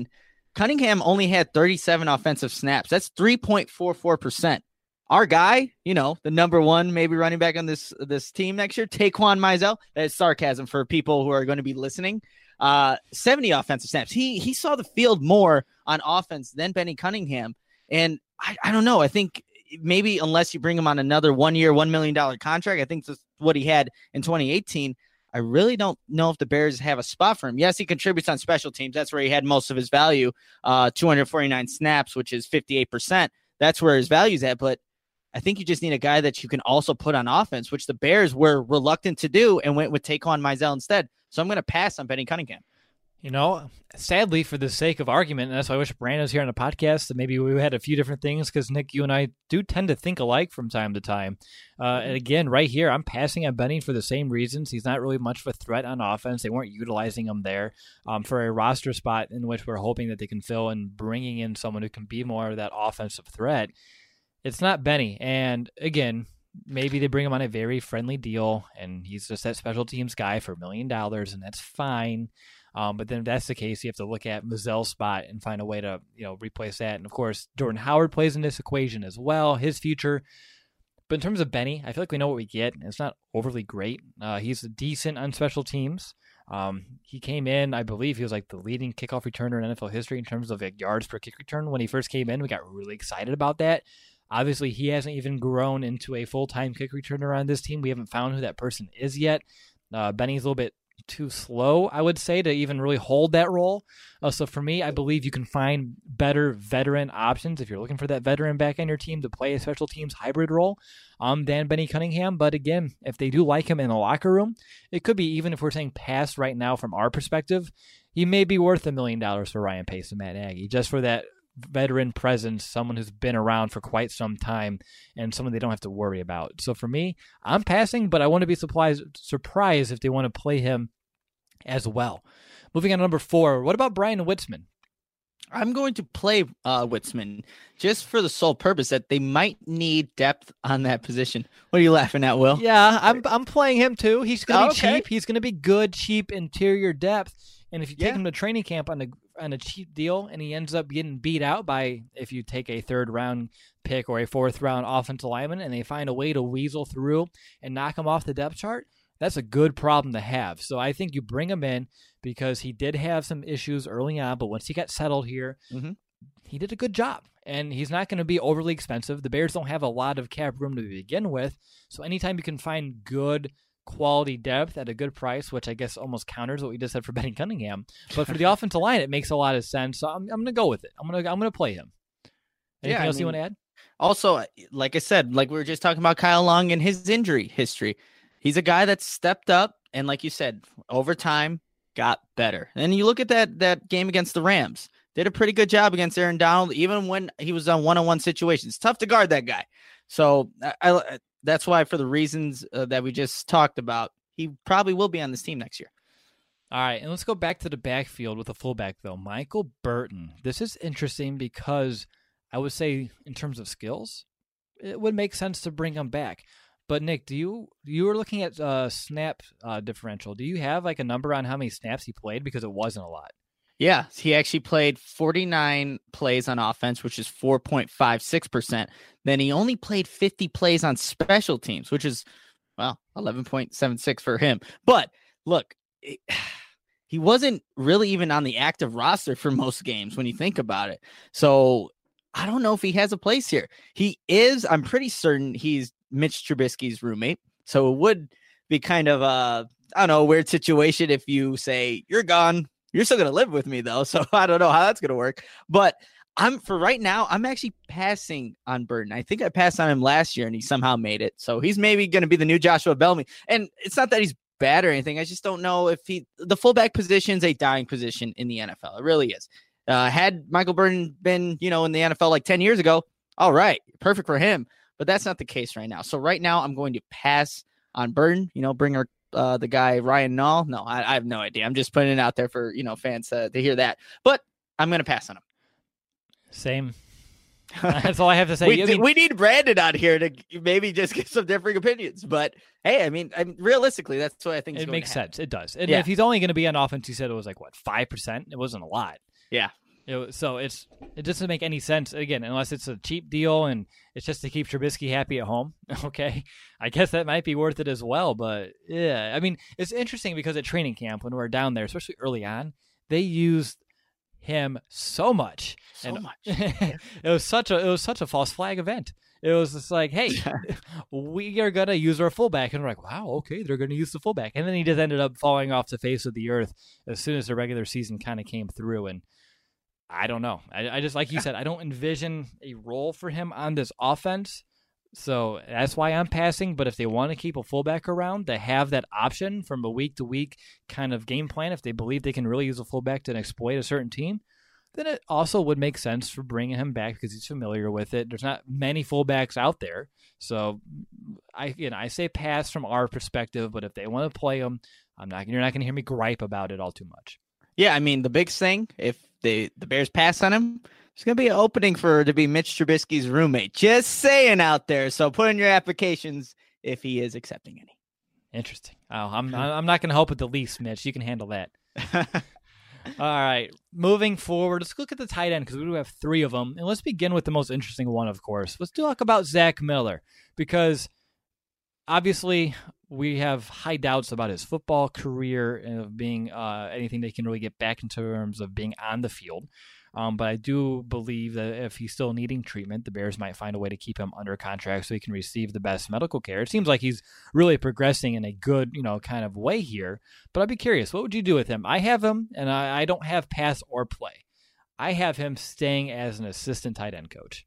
Cunningham only had thirty-seven offensive snaps. That's three point four four percent. Our guy, you know, the number one maybe running back on this this team next year, Taquan Mizell. That's sarcasm for people who are going to be listening. Uh, seventy offensive snaps. He he saw the field more on offense than Benny Cunningham. And I, I don't know. I think maybe unless you bring him on another one-year, one million dollars contract, I think that's what he had in twenty eighteen. I really don't know if the Bears have a spot for him. Yes, he contributes on special teams. That's where he had most of his value, uh, two hundred forty-nine snaps, which is fifty-eight percent. That's where his value's at. But I think you just need a guy that you can also put on offense, which the Bears were reluctant to do and went with Taquan Mizell instead. So I'm going to pass on Benny Cunningham. You know, sadly, for the sake of argument, and that's why I wish Brandon was here on the podcast, that maybe we had a few different things, because, Nick, you and I do tend to think alike from time to time. Uh, and again, right here, I'm passing on Benny for the same reasons. He's not really much of a threat on offense. They weren't utilizing him there um, for a roster spot in which we're hoping that they can fill, and bringing in someone who can be more of that offensive threat. It's not Benny. And again, maybe they bring him on a very friendly deal, and he's just that special teams guy for a million dollars, and that's fine. Um, but then if that's the case, you have to look at Mizell's spot and find a way to, you know, replace that. And of course, Jordan Howard plays in this equation as well, his future. But in terms of Benny, I feel like we know what we get. It's not overly great. Uh, he's decent on special teams. Um, he came in, I believe he was like the leading kickoff returner in N F L history in terms of like yards per kick return. When he first came in, we got really excited about that. Obviously, he hasn't even grown into a full-time kick returner on this team. We haven't found who that person is yet. Uh, Benny's a little bit too slow, I would say, to even really hold that role. Uh, so for me, I believe you can find better veteran options if you're looking for that veteran back on your team to play a special teams hybrid role um, than Benny Cunningham. But again, if they do like him in the locker room, it could be, even if we're saying pass right now from our perspective, he may be worth a million dollars for Ryan Pace and Matt Nagy, just for that veteran presence, someone who's been around for quite some time, and someone they don't have to worry about. So for me, I'm passing, but I want to be surprised surprised if they want to play him as well. Moving on to number four, what about Brian Witzman? I'm going to play uh, Witzman just for the sole purpose that they might need depth on that position. What are you laughing at, Will? Yeah, I'm I'm playing him too. He's going to oh, be okay. cheap. He's going to be good, cheap interior depth. And if you take Yeah. him to training camp on a on a cheap deal, and he ends up getting beat out by, if you take a third round pick or a fourth round offensive lineman, and they find a way to weasel through and knock him off the depth chart, that's a good problem to have. So I think you bring him in because he did have some issues early on, but once he got settled here, mm-hmm. he did a good job. And he's not going to be overly expensive. The Bears don't have a lot of cap room to begin with. So anytime you can find good quality depth at a good price, which I guess almost counters what we just said for Benny Cunningham, but for the offensive line, it makes a lot of sense. So I'm, I'm going to go with it. I'm going to I'm going to play him. Anything Yeah, else I mean, you want to add? Also, like I said, like we were just talking about Kyle Long and his injury history. He's a guy that stepped up and, like you said, over time got better. And you look at that that game against the Rams, did a pretty good job against Aaron Donald, even when he was on one-on-one situations. Tough to guard that guy. So I, I that's why, for the reasons uh, that we just talked about, he probably will be on this team next year. All right, and let's go back to the backfield with a fullback, though. Michael Burton. This is interesting because I would say in terms of skills, it would make sense to bring him back. But, Nick, do you you were looking at uh, snap uh, differential. Do you have like a number on how many snaps he played? Because it wasn't a lot. Yeah, he actually played forty-nine plays on offense, which is four point five six percent. Then he only played fifty plays on special teams, which is, well, eleven point seven six for him. But look, it, he wasn't really even on the active roster for most games when you think about it. So I don't know if he has a place here. He is, I'm pretty certain he's Mitch Trubisky's roommate. So it would be kind of a, I don't know, a weird situation if you say, you're gone. You're still going to live with me, though, so I don't know how that's going to work. But I'm for right now, I'm actually passing on Burton. I think I passed on him last year, and he somehow made it. So he's maybe going to be the new Joshua Bellamy. And it's not that he's bad or anything. I just don't know if he – the fullback position is a dying position in the N F L. It really is. Uh, had Michael Burton been, you know, in the N F L like ten years ago, all right, perfect for him. But that's not the case right now. So right now, I'm going to pass on Burton, you know, bring our Uh, the guy Ryan Nall. No, I, I have no idea. I'm just putting it out there for, you know, fans uh, to hear that. But I'm going to pass on him. Same. That's all I have to say. we, I mean, we need Brandon out here to maybe just get some differing opinions. But hey, I mean, I mean realistically, that's what I think. Is it going makes to happen. sense. It does. And Yeah. if he's only going to be on offense, you said it was like what five percent. It wasn't a lot. Yeah. It, so it's it doesn't make any sense, again, unless it's a cheap deal and it's just to keep Trubisky happy at home. Okay, I guess that might be worth it as well. But yeah, I mean, it's interesting because at training camp when we're down there, especially early on, they used him so much, so and much. it was such a it was such a false flag event. It was just like, hey, we are gonna use our fullback, and we're like, wow, okay, they're gonna use the fullback, and then he just ended up falling off the face of the earth as soon as the regular season kind of came through. And I don't know. I, I just, like you said, I don't envision a role for him on this offense. So that's why I'm passing. But if they want to keep a fullback around, they have that option from a week to week kind of game plan. If they believe they can really use a fullback to exploit a certain team, then it also would make sense for bringing him back because he's familiar with it. There's not many fullbacks out there. So I, you know, I say pass from our perspective, but if they want to play him, I'm not, you're not going to hear me gripe about it all too much. Yeah, I mean, the big thing, if they, the Bears pass on him, there's going to be an opening for to be Mitch Trubisky's roommate. Just saying out there. So put in your applications if he is accepting any. Interesting. Oh, I'm I'm not going to help with the least, Mitch. You can handle that. All right. Moving forward, let's look at the tight end because we do have three of them. And let's begin with the most interesting one, of course. Let's talk about Zach Miller because obviously we have high doubts about his football career and of being uh, anything they can really get back in terms of being on the field. Um, but I do believe that if he's still needing treatment, the Bears might find a way to keep him under contract so he can receive the best medical care. It seems like he's really progressing in a good, you know, kind of way here. But I'd be curious, what would you do with him? I have him, and I, I don't have pass or play. I have him staying as an assistant tight end coach.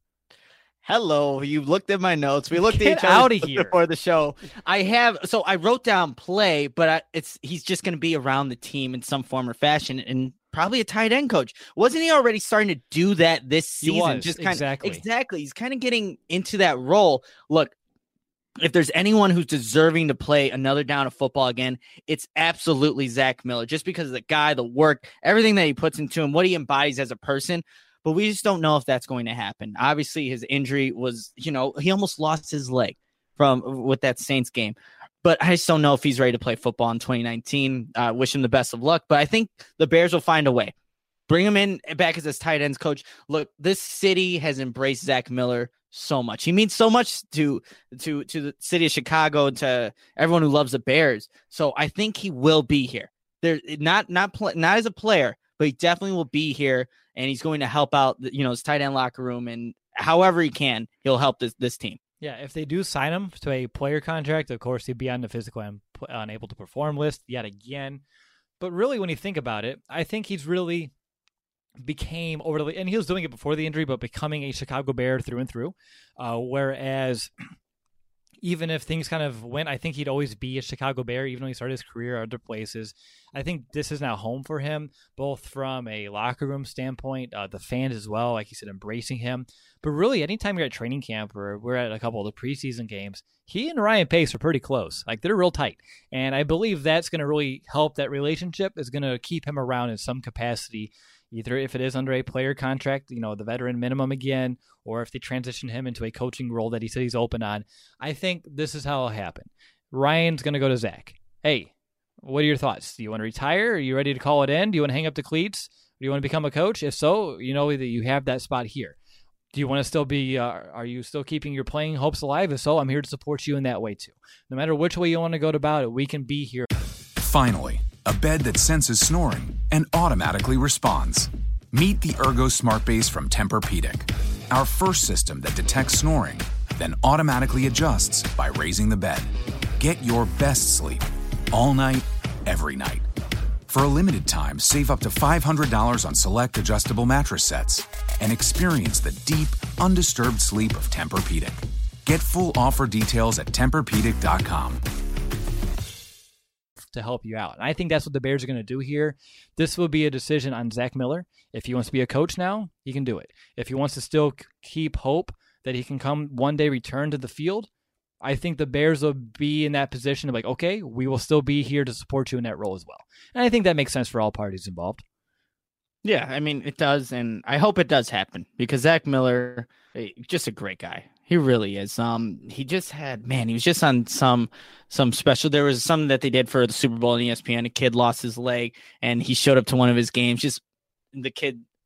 Hello, you looked at my notes. We looked Get at each other out of here. before the show. I have, so I wrote down play, but I, it's he's just going to be around the team in some form or fashion, and probably a tight end coach. Wasn't he already starting to do that this season? He was, just kind exactly. of exactly. He's kind of getting into that role. Look, if there's anyone who's deserving to play another down of football again, it's absolutely Zach Miller. Just because of the guy, the work, everything that he puts into him, what he embodies as a person. But we just don't know if that's going to happen. Obviously, his injury was, you know, he almost lost his leg from with that Saints game. But I just don't know if he's ready to play football in twenty nineteen. Uh, wish him the best of luck. But I think the Bears will find a way. Bring him in back as his tight ends coach. Look, this city has embraced Zach Miller so much. He means so much to to to the city of Chicago and to everyone who loves the Bears. So I think he will be here. There, not not pl- not as a player, but he definitely will be here. And he's going to help out, you know, his tight end locker room, and however he can, he'll help this this team. Yeah, if they do sign him to a player contract, of course, he'd be on the physical and unable to perform list yet again. But really, when you think about it, I think he's really became overly, and he was doing it before the injury, but becoming a Chicago Bear through and through. Uh, whereas even if things kind of went, I think he'd always be a Chicago Bear, even though he started his career at other places. I think this is now home for him, both from a locker room standpoint, uh, the fans as well, like you said, embracing him. But really, anytime you're at training camp or we're at a couple of the preseason games, he and Ryan Pace are pretty close. Like, they're real tight. And I believe that's going to really help. That relationship is going to keep him around in some capacity, either if it is under a player contract, you know, the veteran minimum again, or if they transition him into a coaching role that he said he's open on. I think this is how it'll happen. Ryan's going to go to Zach. Hey, what are your thoughts? Do you want to retire? Are you ready to call it in? Do you want to hang up the cleats? Do you want to become a coach? If so, you know that you have that spot here. Do you want to still be, uh, are you still keeping your playing hopes alive? If so, I'm here to support you in that way too. No matter which way you want to go about it, we can be here. Finally, a bed that senses snoring and automatically responds. Meet the Ergo Smart Base from Tempur-Pedic, our first system that detects snoring, then automatically adjusts by raising the bed. Get your best sleep all night, every night. For a limited time, save up to five hundred dollars on select adjustable mattress sets and experience the deep, undisturbed sleep of Tempur-Pedic. Get full offer details at Tempur Pedic dot com. To help you out. And I think that's what the Bears are going to do here. This will be a decision on Zach Miller. If he wants to be a coach now, he can do it. If he wants to still keep hope that he can come one day return to the field, I think the Bears will be in that position of like, okay, we will still be here to support you in that role as well. And I think that makes sense for all parties involved. Yeah, I mean, it does, and I hope it does happen because Zach Miller, just a great guy. He really is. Um, he just had, man, he was just on some some special. There was something that they did for the Super Bowl on E S P N. A kid lost his leg, and he showed up to one of his games. Just the kid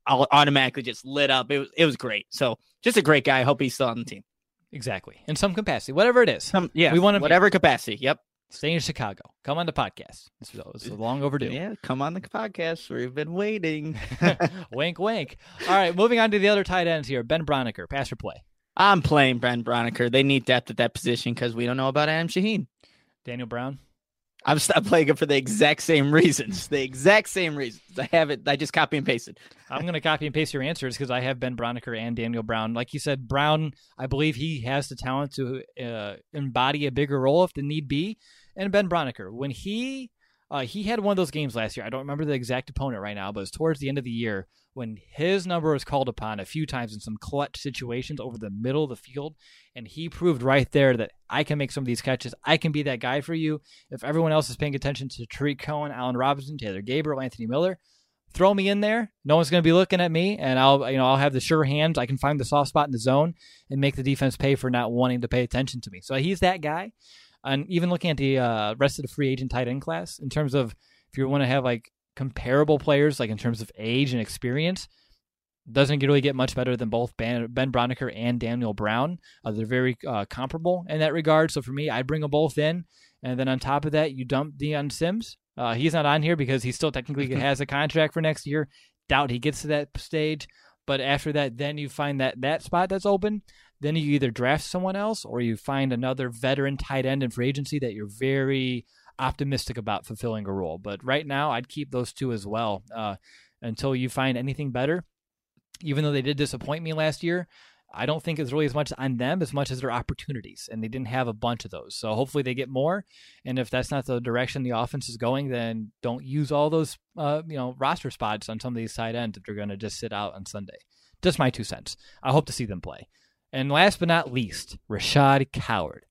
automatically just lit up. It was it was great. So just a great guy. I hope he's still on the team. Exactly. In some capacity, whatever it is. Some, yeah, we want him whatever capacity. Yep. Stay in Chicago. Come on the podcast. It's, it's long overdue. Yeah, come on the podcast. We've been waiting. Wink, wink. All right, moving on to the other tight ends here. Ben Braunecker, pass or play? I'm playing Ben Braunecker. They need depth at that position because we don't know about Adam Shaheen. Daniel Brown? I'm stopped playing it for the exact same reasons. The exact same reasons. I have it. I just copy and paste it. I'm going to copy and paste your answers because I have Ben Braunecker and Daniel Brown. Like you said, Brown, I believe he has the talent to uh, embody a bigger role if the need be. And Ben Braunecker, when he uh, he had one of those games last year, I don't remember the exact opponent right now, but it was towards the end of the year when his number was called upon a few times in some clutch situations over the middle of the field, and he proved right there that I can make some of these catches. I can be that guy for you. If everyone else is paying attention to Tariq Cohen, Allen Robinson, Taylor Gabriel, Anthony Miller, throw me in there. No one's going to be looking at me, and I'll you know I'll have the sure hands. I can find the soft spot in the zone and make the defense pay for not wanting to pay attention to me. So he's that guy. And even looking at the uh, rest of the free agent tight end class, in terms of if you want to have like comparable players, like in terms of age and experience, doesn't really get much better than both Ben, Ben Braunecker and Daniel Brown. Uh, they're very uh, comparable in that regard. So for me, I'd bring them both in. And then on top of that, you dump Deion Sims. Uh, he's not on here because he still technically has a contract for next year. Doubt he gets to that stage. But after that, then you find that that spot that's open. Then you either draft someone else or you find another veteran tight end in free agency that you're very optimistic about fulfilling a role. But right now, I'd keep those two as well uh, until you find anything better. Even though they did disappoint me last year, I don't think it's really as much on them as much as their opportunities, and they didn't have a bunch of those. So hopefully they get more, and if that's not the direction the offense is going, then don't use all those uh, you know roster spots on some of these tight ends if they're going to just sit out on Sunday. Just my two cents. I hope to see them play. And last but not least, Rashad Coward.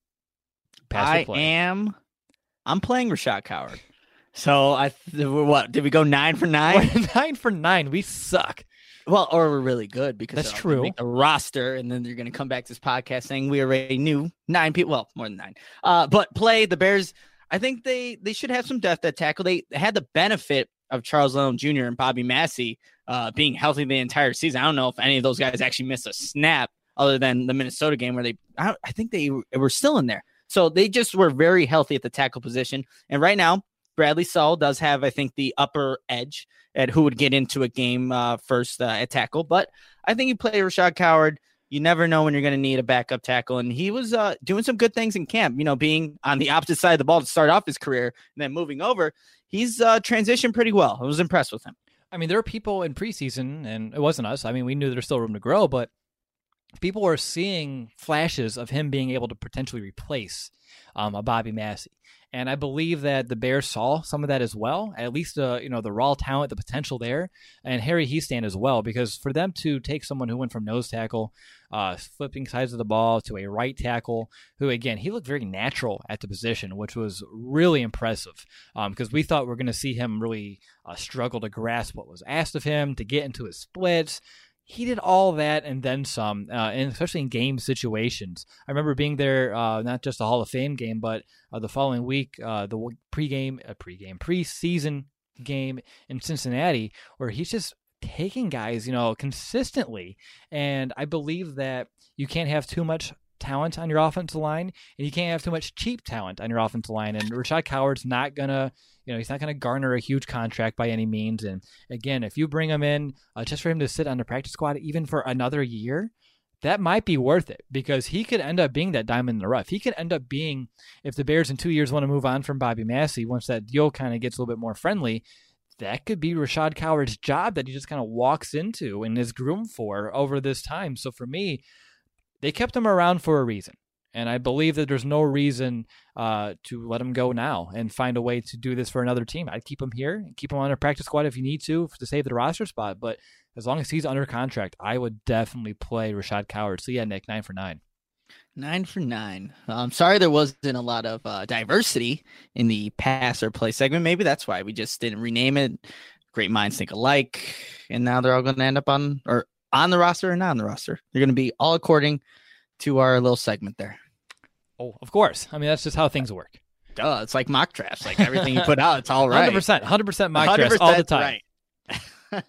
I am. I'm playing Rashad Coward. So I what did we go nine for nine? nine for nine. We suck. Well, or we're really good because that's true. Make a roster, and then they're going to come back to this podcast saying we already knew nine people. Well, more than nine. Uh, but play the Bears. I think they they should have some depth at tackle. They had the benefit of Charles Leno Junior and Bobby Massey uh, being healthy the entire season. I don't know if any of those guys actually missed a snap other than the Minnesota game where they. I, I think they were still in there. So they just were very healthy at the tackle position. And right now, Bradley Sewell does have, I think, the upper edge at who would get into a game uh, first uh, at tackle. But I think you play Rashad Coward. You never know when you're going to need a backup tackle. And he was uh, doing some good things in camp, you know, being on the opposite side of the ball to start off his career and then moving over. He's uh, transitioned pretty well. I was impressed with him. I mean, there are people in preseason, and it wasn't us. I mean, we knew there's still room to grow, but people were seeing flashes of him being able to potentially replace um, a Bobby Massey. And I believe that the Bears saw some of that as well, at least uh, you know the raw talent, the potential there, and Harry Hiestand as well, because for them to take someone who went from nose tackle, uh, flipping sides of the ball, to a right tackle, who, again, he looked very natural at the position, which was really impressive, because um, we thought we were going to see him really uh, struggle to grasp what was asked of him, to get into his splits. He did all that and then some, uh, and especially in game situations. I remember being there, uh, not just the Hall of Fame game, but uh, the following week, uh, the pregame, uh, pregame, preseason game in Cincinnati, where he's just taking guys, you know, consistently. And I believe that you can't have too much talent on your offensive line, and you can't have too much cheap talent on your offensive line. And Rashad Coward's not gonna, you know, he's not gonna garner a huge contract by any means. And again, if you bring him in uh, just for him to sit on the practice squad, even for another year, that might be worth it, because he could end up being that diamond in the rough. He could end up being, if the Bears in two years want to move on from Bobby Massey, once that deal kind of gets a little bit more friendly, that could be Rashad Coward's job that he just kind of walks into and is groomed for over this time. So for me, they kept him around for a reason, and I believe that there's no reason uh, to let him go now and find a way to do this for another team. I'd keep him here and keep him on a practice squad if you need to to save the roster spot, but as long as he's under contract, I would definitely play Rashad Coward. So yeah, Nick, nine for nine. Nine for nine. I'm sorry there wasn't a lot of uh, diversity in the pass or play segment. Maybe that's why we just didn't rename it. Great minds think alike, and now they're all going to end up on or on the roster or not on the roster. They're going to be all according to our little segment there. Oh, of course. I mean, that's just how things work. Duh, it's like mock drafts. Like everything you put out, it's all right. one hundred percent. one hundred percent mock drafts all the time. Right.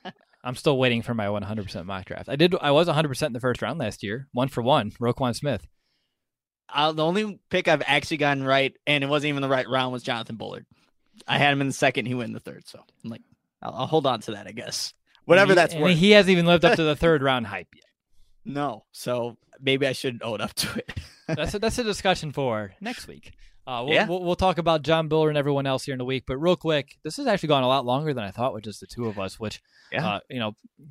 I'm still waiting for my one hundred percent mock draft. I did. I was one hundred percent in the first round last year, one for one. Roquan Smith. Uh, the only pick I've actually gotten right, and it wasn't even the right round, was Jonathan Bullard. I had him in the second. He went in the third. So I'm like, I'll, I'll hold on to that, I guess. Whatever he, that's worth. He hasn't even lived up to the third round hype yet. No. So maybe I should own up to it. that's a, that's a discussion for next week. Uh, we'll, yeah. we'll, we'll talk about John Bullard and everyone else here in a week. But real quick, this has actually gone a lot longer than I thought with just the two of us. Which, yeah. uh, you know,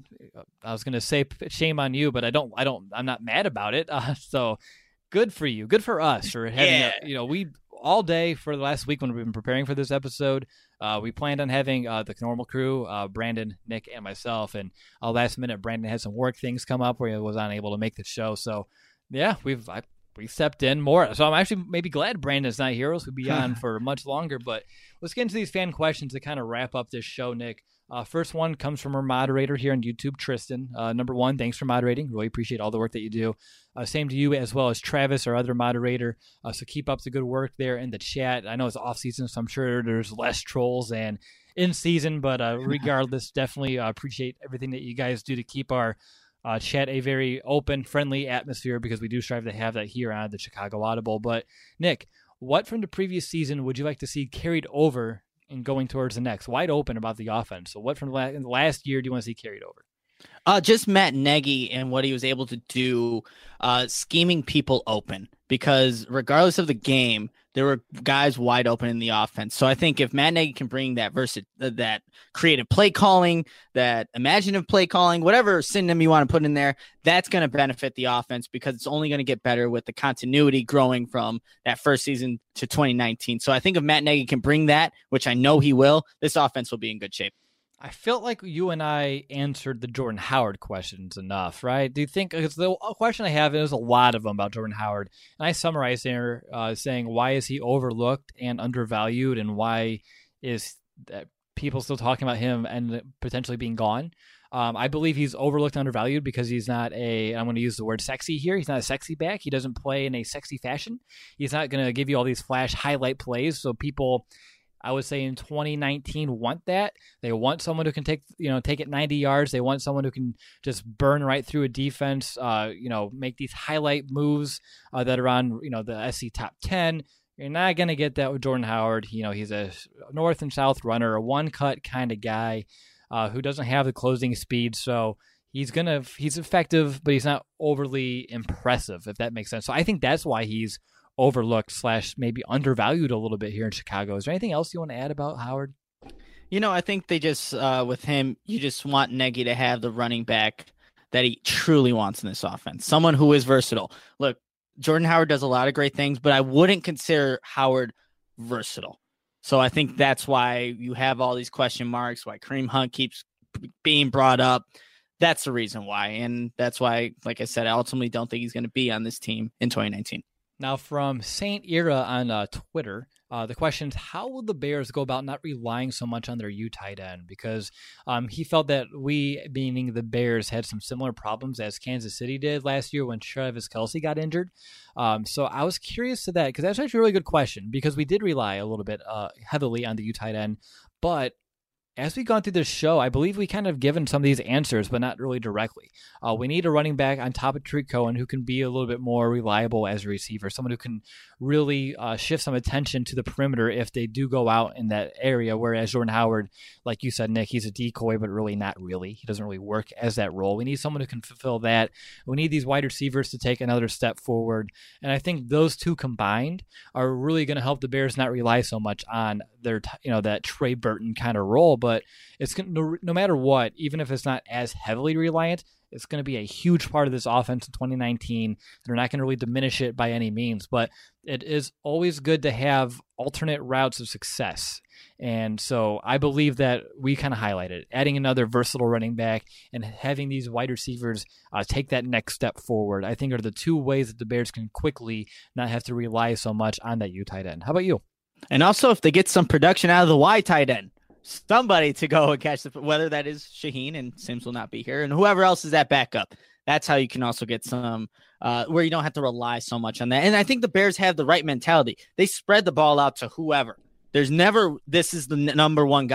I was going to say shame on you, but I don't. I don't. I'm not mad about it. Uh, so good for you. Good for us for having. Yeah. A, you know, we all day for the last week when we've been preparing for this episode. Uh, we planned on having uh, the normal crew, uh, Brandon, Nick, and myself. And uh, last minute, Brandon had some work things come up where he was unable to make the show. So yeah, we've. I, We stepped in more. So I'm actually maybe glad Brandon's not here. We'll be on for much longer. But let's get into these fan questions to kind of wrap up this show, Nick. Uh, first one comes from our moderator here on YouTube, Tristan. Uh, number one, thanks for moderating. Really appreciate all the work that you do. Uh, same to you as well as Travis, our other moderator. Uh, so keep up the good work there in the chat. I know it's off season, so I'm sure there's less trolls and in season. But uh, regardless, definitely uh, appreciate everything that you guys do to keep our Uh, chat a very open, friendly atmosphere, because we do strive to have that here on the Chicago Audible. But Nick, what from the previous season would you like to see carried over and going towards the next? Wide open about the offense. So what from the last year do you want to see carried over? Uh, just Matt Nagy and what he was able to do, uh, scheming people open, because regardless of the game, there were guys wide open in the offense. So I think if Matt Nagy can bring that versi- that creative play calling, that imaginative play calling, whatever synonym you want to put in there, that's going to benefit the offense, because it's only going to get better with the continuity growing from that first season to twenty nineteen. So I think if Matt Nagy can bring that, which I know he will, this offense will be in good shape. I felt like you and I answered the Jordan Howard questions enough, right? Do you think, because the question I have, and there's a lot of them about Jordan Howard, and I summarized there uh, saying, why is he overlooked and undervalued, and why is that people still talking about him and potentially being gone? Um, I believe he's overlooked and undervalued because he's not a, I'm going to use the word sexy here, he's not a sexy back. He doesn't play in a sexy fashion. He's not going to give you all these flash highlight plays, so people, I would say in twenty nineteen, want that. They want someone who can take, you know, take it ninety yards. They want someone who can just burn right through a defense, uh, you know, make these highlight moves uh, that are on, you know, the S C top ten. You're not going to get that with Jordan Howard. You know, he's a north and south runner, a one-cut kind of guy uh, who doesn't have the closing speed. So he's going to, he's effective, but he's not overly impressive, if that makes sense. So I think that's why he's overlooked slash maybe undervalued a little bit here in Chicago. Is there anything else you want to add about Howard? You know, I think they just, uh, with him, you just want Nagy to have the running back that he truly wants in this offense. Someone who is versatile. Look, Jordan Howard does a lot of great things, but I wouldn't consider Howard versatile. So I think that's why you have all these question marks, why Kareem Hunt keeps being brought up. That's the reason why. And that's why, like I said, I ultimately don't think he's going to be on this team in twenty nineteen. Now, from Saint Era on uh, Twitter, uh, the question is, how will the Bears go about not relying so much on their U tight end? Because um, he felt that we, meaning the Bears, had some similar problems as Kansas City did last year when Travis Kelce got injured. Um, so I was curious to that, because that's actually a really good question, because we did rely a little bit uh, heavily on the U tight end. But as we've gone through this show, I believe we kind of given some of these answers, but not really directly. Uh, we need a running back on top of Tariq Cohen who can be a little bit more reliable as a receiver, someone who can really uh, shift some attention to the perimeter if they do go out in that area, whereas Jordan Howard, like you said, Nick, he's a decoy, but really not really. He doesn't really work as that role. We need someone who can fulfill that. We need these wide receivers to take another step forward, and I think those two combined are really going to help the Bears not rely so much on their, you know, that Trey Burton kind of role. But it's gonna, no, no matter what, even if it's not as heavily reliant, it's going to be a huge part of this offense in twenty nineteen. They're not going to really diminish it by any means, but it is always good to have alternate routes of success. And so I believe that we kind of highlighted adding another versatile running back and having these wide receivers uh, take that next step forward, I think are the two ways that the Bears can quickly not have to rely so much on that U tight end. How about you? And also, if they get some production out of the Y tight end, somebody to go and catch the, whether that is Shaheen, and Sims will not be here, and whoever else is that backup. That's how you can also get some uh, where you don't have to rely so much on that. And I think the Bears have the right mentality. They spread the ball out to whoever. There's never, this is the n- number one guy.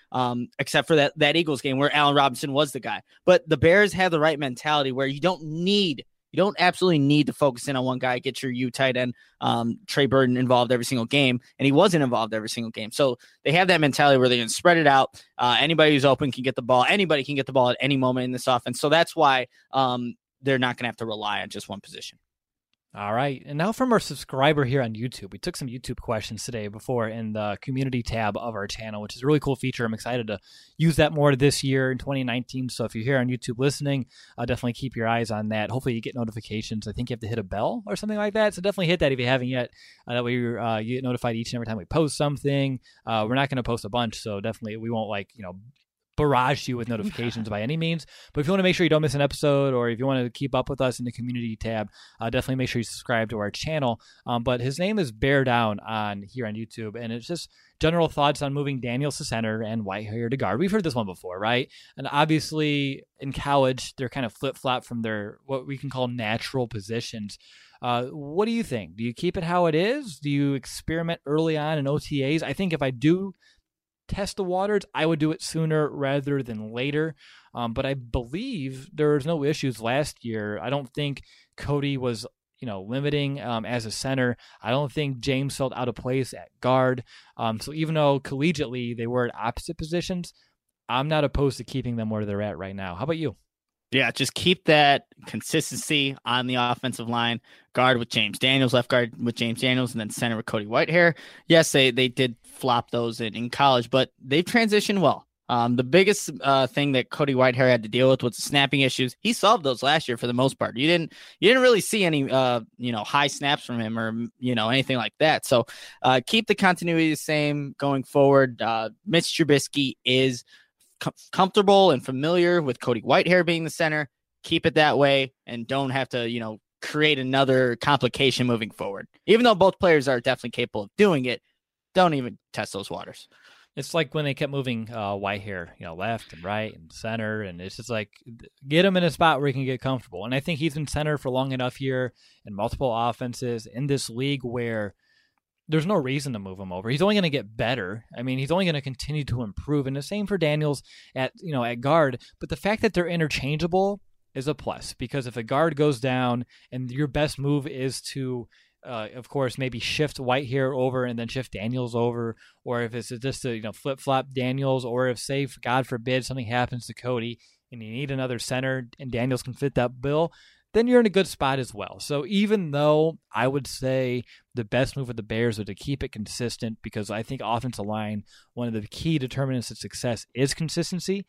um, except for that, that Eagles game where Allen Robinson was the guy. But the Bears have the right mentality where you don't need, you don't absolutely need to focus in on one guy, get your U tight end, um, Trey Burton involved every single game, and he wasn't involved every single game. So they have that mentality where they're going to spread it out. Uh, anybody who's open can get the ball. Anybody can get the ball at any moment in this offense. So that's why um, they're not going to have to rely on just one position. All right. And now from our subscriber here on YouTube. We took some YouTube questions today before in the community tab of our channel, which is a really cool feature. I'm excited to use that more this year in twenty nineteen. So if you're here on YouTube listening, uh, definitely keep your eyes on that. Hopefully you get notifications. I think you have to hit a bell or something like that. So definitely hit that if you haven't yet. Uh, that way you're, uh, you get notified each and every time we post something. Uh, we're not going to post a bunch, so definitely we won't like, you know, barrage you with notifications by any means. But if you want to make sure you don't miss an episode, or if you want to keep up with us in the community tab, uh, definitely make sure you subscribe to our channel. Um, but his name is Bear Down on here on YouTube, and it's just general thoughts on moving Daniels to center and Whitehair to guard. We've heard this one before, right? And obviously in college, they're kind of flip-flop from their what we can call natural positions. Uh, what do you think? Do you keep it how it is? Do you experiment early on in O T As? I think if I do test the waters, I would do it sooner rather than later. Um, but I believe there was no issues last year. I don't think Cody was, you know, limiting um, as a center. I don't think James felt out of place at guard. Um, so even though collegiately they were at opposite positions, I'm not opposed to keeping them where they're at right now. How about you? Yeah, just keep that consistency on the offensive line. Guard with James Daniels, left guard with James Daniels, and then center with Cody Whitehair. Yes, they, they did flop those in, in college, but they've transitioned well. Um, the biggest uh, thing that Cody Whitehair had to deal with was the snapping issues. He solved those last year for the most part. You didn't you didn't really see any uh, you know high snaps from him or you know anything like that. So uh, keep the continuity the same going forward. Uh, Mitch Trubisky is com- comfortable and familiar with Cody Whitehair being the center. Keep it that way, and don't have to you know create another complication moving forward. Even though both players are definitely capable of doing it, don't even test those waters. It's like when they kept moving uh, Whitehair, you know, left and right and center, and it's just like get him in a spot where he can get comfortable. And I think he's been center for long enough here in multiple offenses in this league where there's no reason to move him over. He's only going to get better. I mean, he's only going to continue to improve. And the same for Daniels at you know at guard. But the fact that they're interchangeable is a plus, because if a guard goes down and your best move is to Uh, of course, maybe shift Whitehair over and then shift Daniels over, or if it's just a you know flip flop Daniels, or if say God forbid something happens to Cody and you need another center and Daniels can fit that bill, then you're in a good spot as well. So even though I would say the best move of the Bears would to keep it consistent, because I think offensive line, one of the key determinants of success is consistency.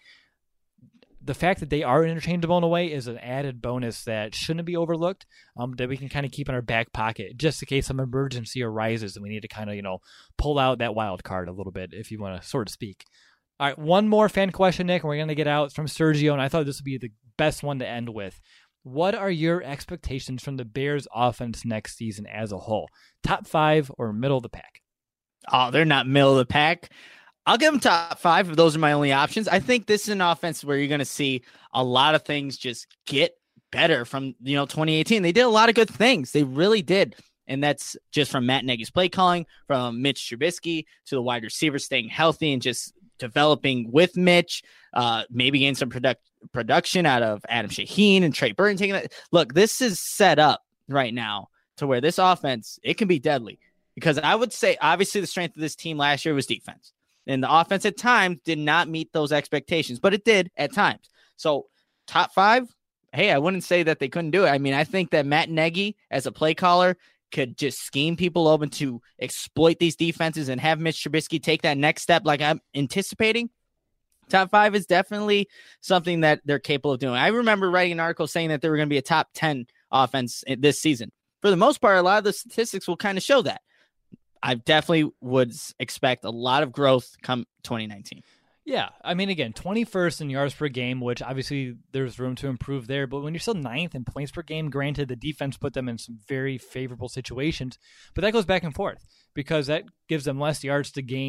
The fact that they are interchangeable in a way is an added bonus that shouldn't be overlooked, um, that we can kind of keep in our back pocket just in case some emergency arises and we need to kind of, you know, pull out that wild card a little bit, if you want to sort of speak. All right, one more fan question, Nick, and we're going to get out from Sergio, and I thought this would be the best one to end with. What are your expectations from the Bears offense next season as a whole? Top five or middle of the pack? Oh, they're not middle of the pack. I'll give them top five if those are my only options. I think this is an offense where you're going to see a lot of things just get better from, you know, twenty eighteen. They did a lot of good things. They really did. And that's just from Matt Nagy's play calling, from Mitch Trubisky to the wide receivers staying healthy and just developing with Mitch, uh, maybe getting some product, production out of Adam Shaheen and Trey Burton taking that. Look, this is set up right now to where this offense, it can be deadly, because I would say obviously the strength of this team last year was defense. And the offense at times did not meet those expectations, but it did at times. So top five, hey, I wouldn't say that they couldn't do it. I mean, I think that Matt Nagy as a play caller could just scheme people open to exploit these defenses and have Mitch Trubisky take that next step like I'm anticipating. Top five is definitely something that they're capable of doing. I remember writing an article saying that they were going to be a top ten offense this season. For the most part, a lot of the statistics will kind of show that. I definitely would expect a lot of growth come twenty nineteen. Yeah, I mean, again, twenty-first in yards per game, which obviously there's room to improve there. But when you're still ninth in points per game, granted, the defense put them in some very favorable situations. But that goes back and forth, because that gives them less yards to gain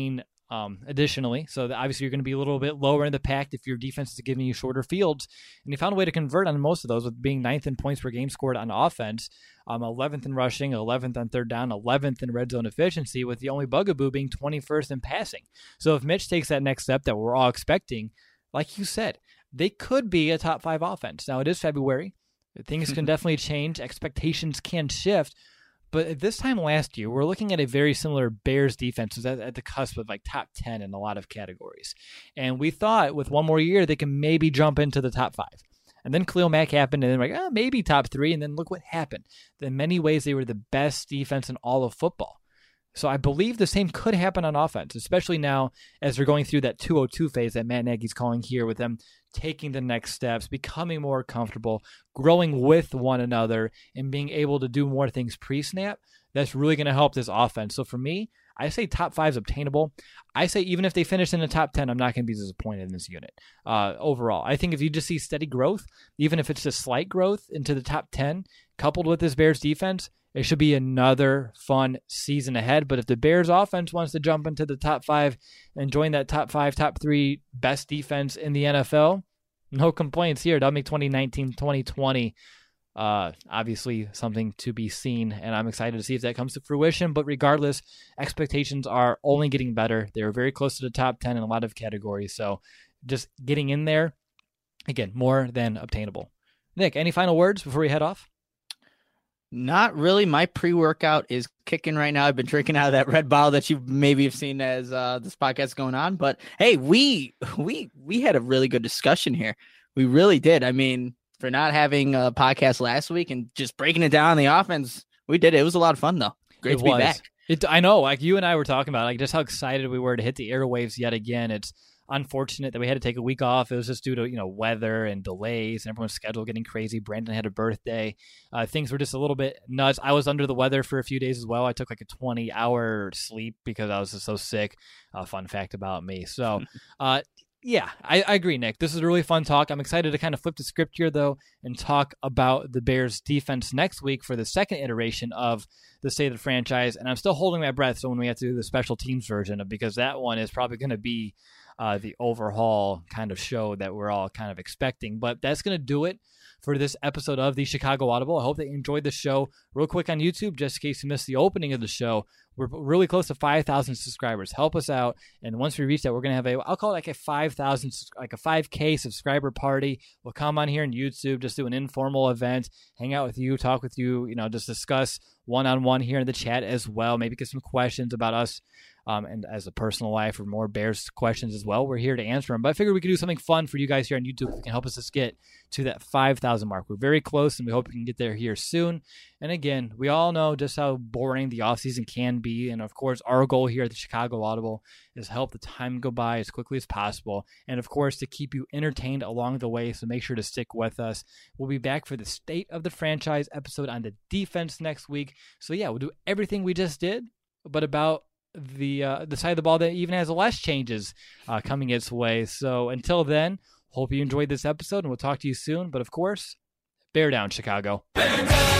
Um, additionally, so obviously you're going to be a little bit lower in the pack if your defense is giving you shorter fields, and you found a way to convert on most of those with being ninth in points per game scored on offense, um, eleventh in rushing, eleventh on third down, eleventh in red zone efficiency, with the only bugaboo being twenty-first in passing. So if Mitch takes that next step that we're all expecting, like you said, they could be a top five offense. Now it is February. Things can definitely change. Expectations can shift. But at this time last year, we're looking at a very similar Bears defense was at, at the cusp of like top ten in a lot of categories. And we thought with one more year, they can maybe jump into the top five. And then Khalil Mack happened, and then we're like, oh, maybe top three. And then look what happened. In many ways, they were the best defense in all of football. So I believe the same could happen on offense, especially now as they're going through that two oh two phase that Matt Nagy's calling here, with them taking the next steps, becoming more comfortable, growing with one another, and being able to do more things pre-snap. That's really going to help this offense. So for me, I say top five is obtainable. I say even if they finish in the top ten, I'm not going to be disappointed in this unit uh, overall. I think if you just see steady growth, even if it's just slight growth into the top ten, coupled with this Bears defense, it should be another fun season ahead. But if the Bears offense wants to jump into the top five and join that top five, top three best defense in the N F L, no complaints here. That'll make twenty nineteen, twenty twenty uh, obviously something to be seen, and I'm excited to see if that comes to fruition. But regardless, expectations are only getting better. They're very close to the top ten in a lot of categories. So just getting in there, again, more than obtainable. Nick, any final words before we head off? Not really. My pre-workout is kicking right now. I've been drinking out of that red bottle that you maybe have seen as uh, this podcast is going on. But hey, we we we had a really good discussion here. We really did. I mean, for not having a podcast last week and just breaking it down on the offense, we did it. It was a lot of fun, though. Great it to was. be back. It, I know. Like you and I were talking about, like just how excited we were to hit the airwaves yet again. It's unfortunate that we had to take a week off. It was just due to, you know, weather and delays and everyone's schedule getting crazy. Brandon had a birthday. Uh, things were just a little bit nuts. I was under the weather for a few days as well. I took like a twenty hour sleep because I was just so sick. Uh, fun fact about me. So, uh, yeah, I, I agree, Nick. This is a really fun talk. I'm excited to kind of flip the script here, though, and talk about the Bears defense next week for the second iteration of the State of the Franchise. And I'm still holding my breath. So when we have to do the special teams version of, because that one is probably going to be Uh, the overhaul kind of show that we're all kind of expecting. But that's going to do it for this episode of the Chicago Audible. I hope that you enjoyed the show. Real quick on YouTube, just in case you missed the opening of the show, we're really close to five thousand subscribers. Help us out. And once we reach that, we're going to have a, I'll call it like a five thousand, like a five K subscriber party. We'll come on here on YouTube, just do an informal event, hang out with you, talk with you, you know, just discuss one-on-one here in the chat as well. Maybe get some questions about us. Um, and as a personal life or more Bears questions as well, we're here to answer them. But I figured we could do something fun for you guys here on YouTube that can help us just get to that five thousand mark. We're very close, and we hope we can get there here soon. And again, we all know just how boring the offseason can be. And of course, our goal here at the Chicago Audible is help the time go by as quickly as possible. And of course, to keep you entertained along the way. So make sure to stick with us. We'll be back for the State of the Franchise episode on the defense next week. So yeah, we'll do everything we just did, but about the uh, the side of the ball that even has less changes uh, coming its way. So until then, hope you enjoyed this episode, and we'll talk to you soon. But of course, bear down, Chicago. Bear down!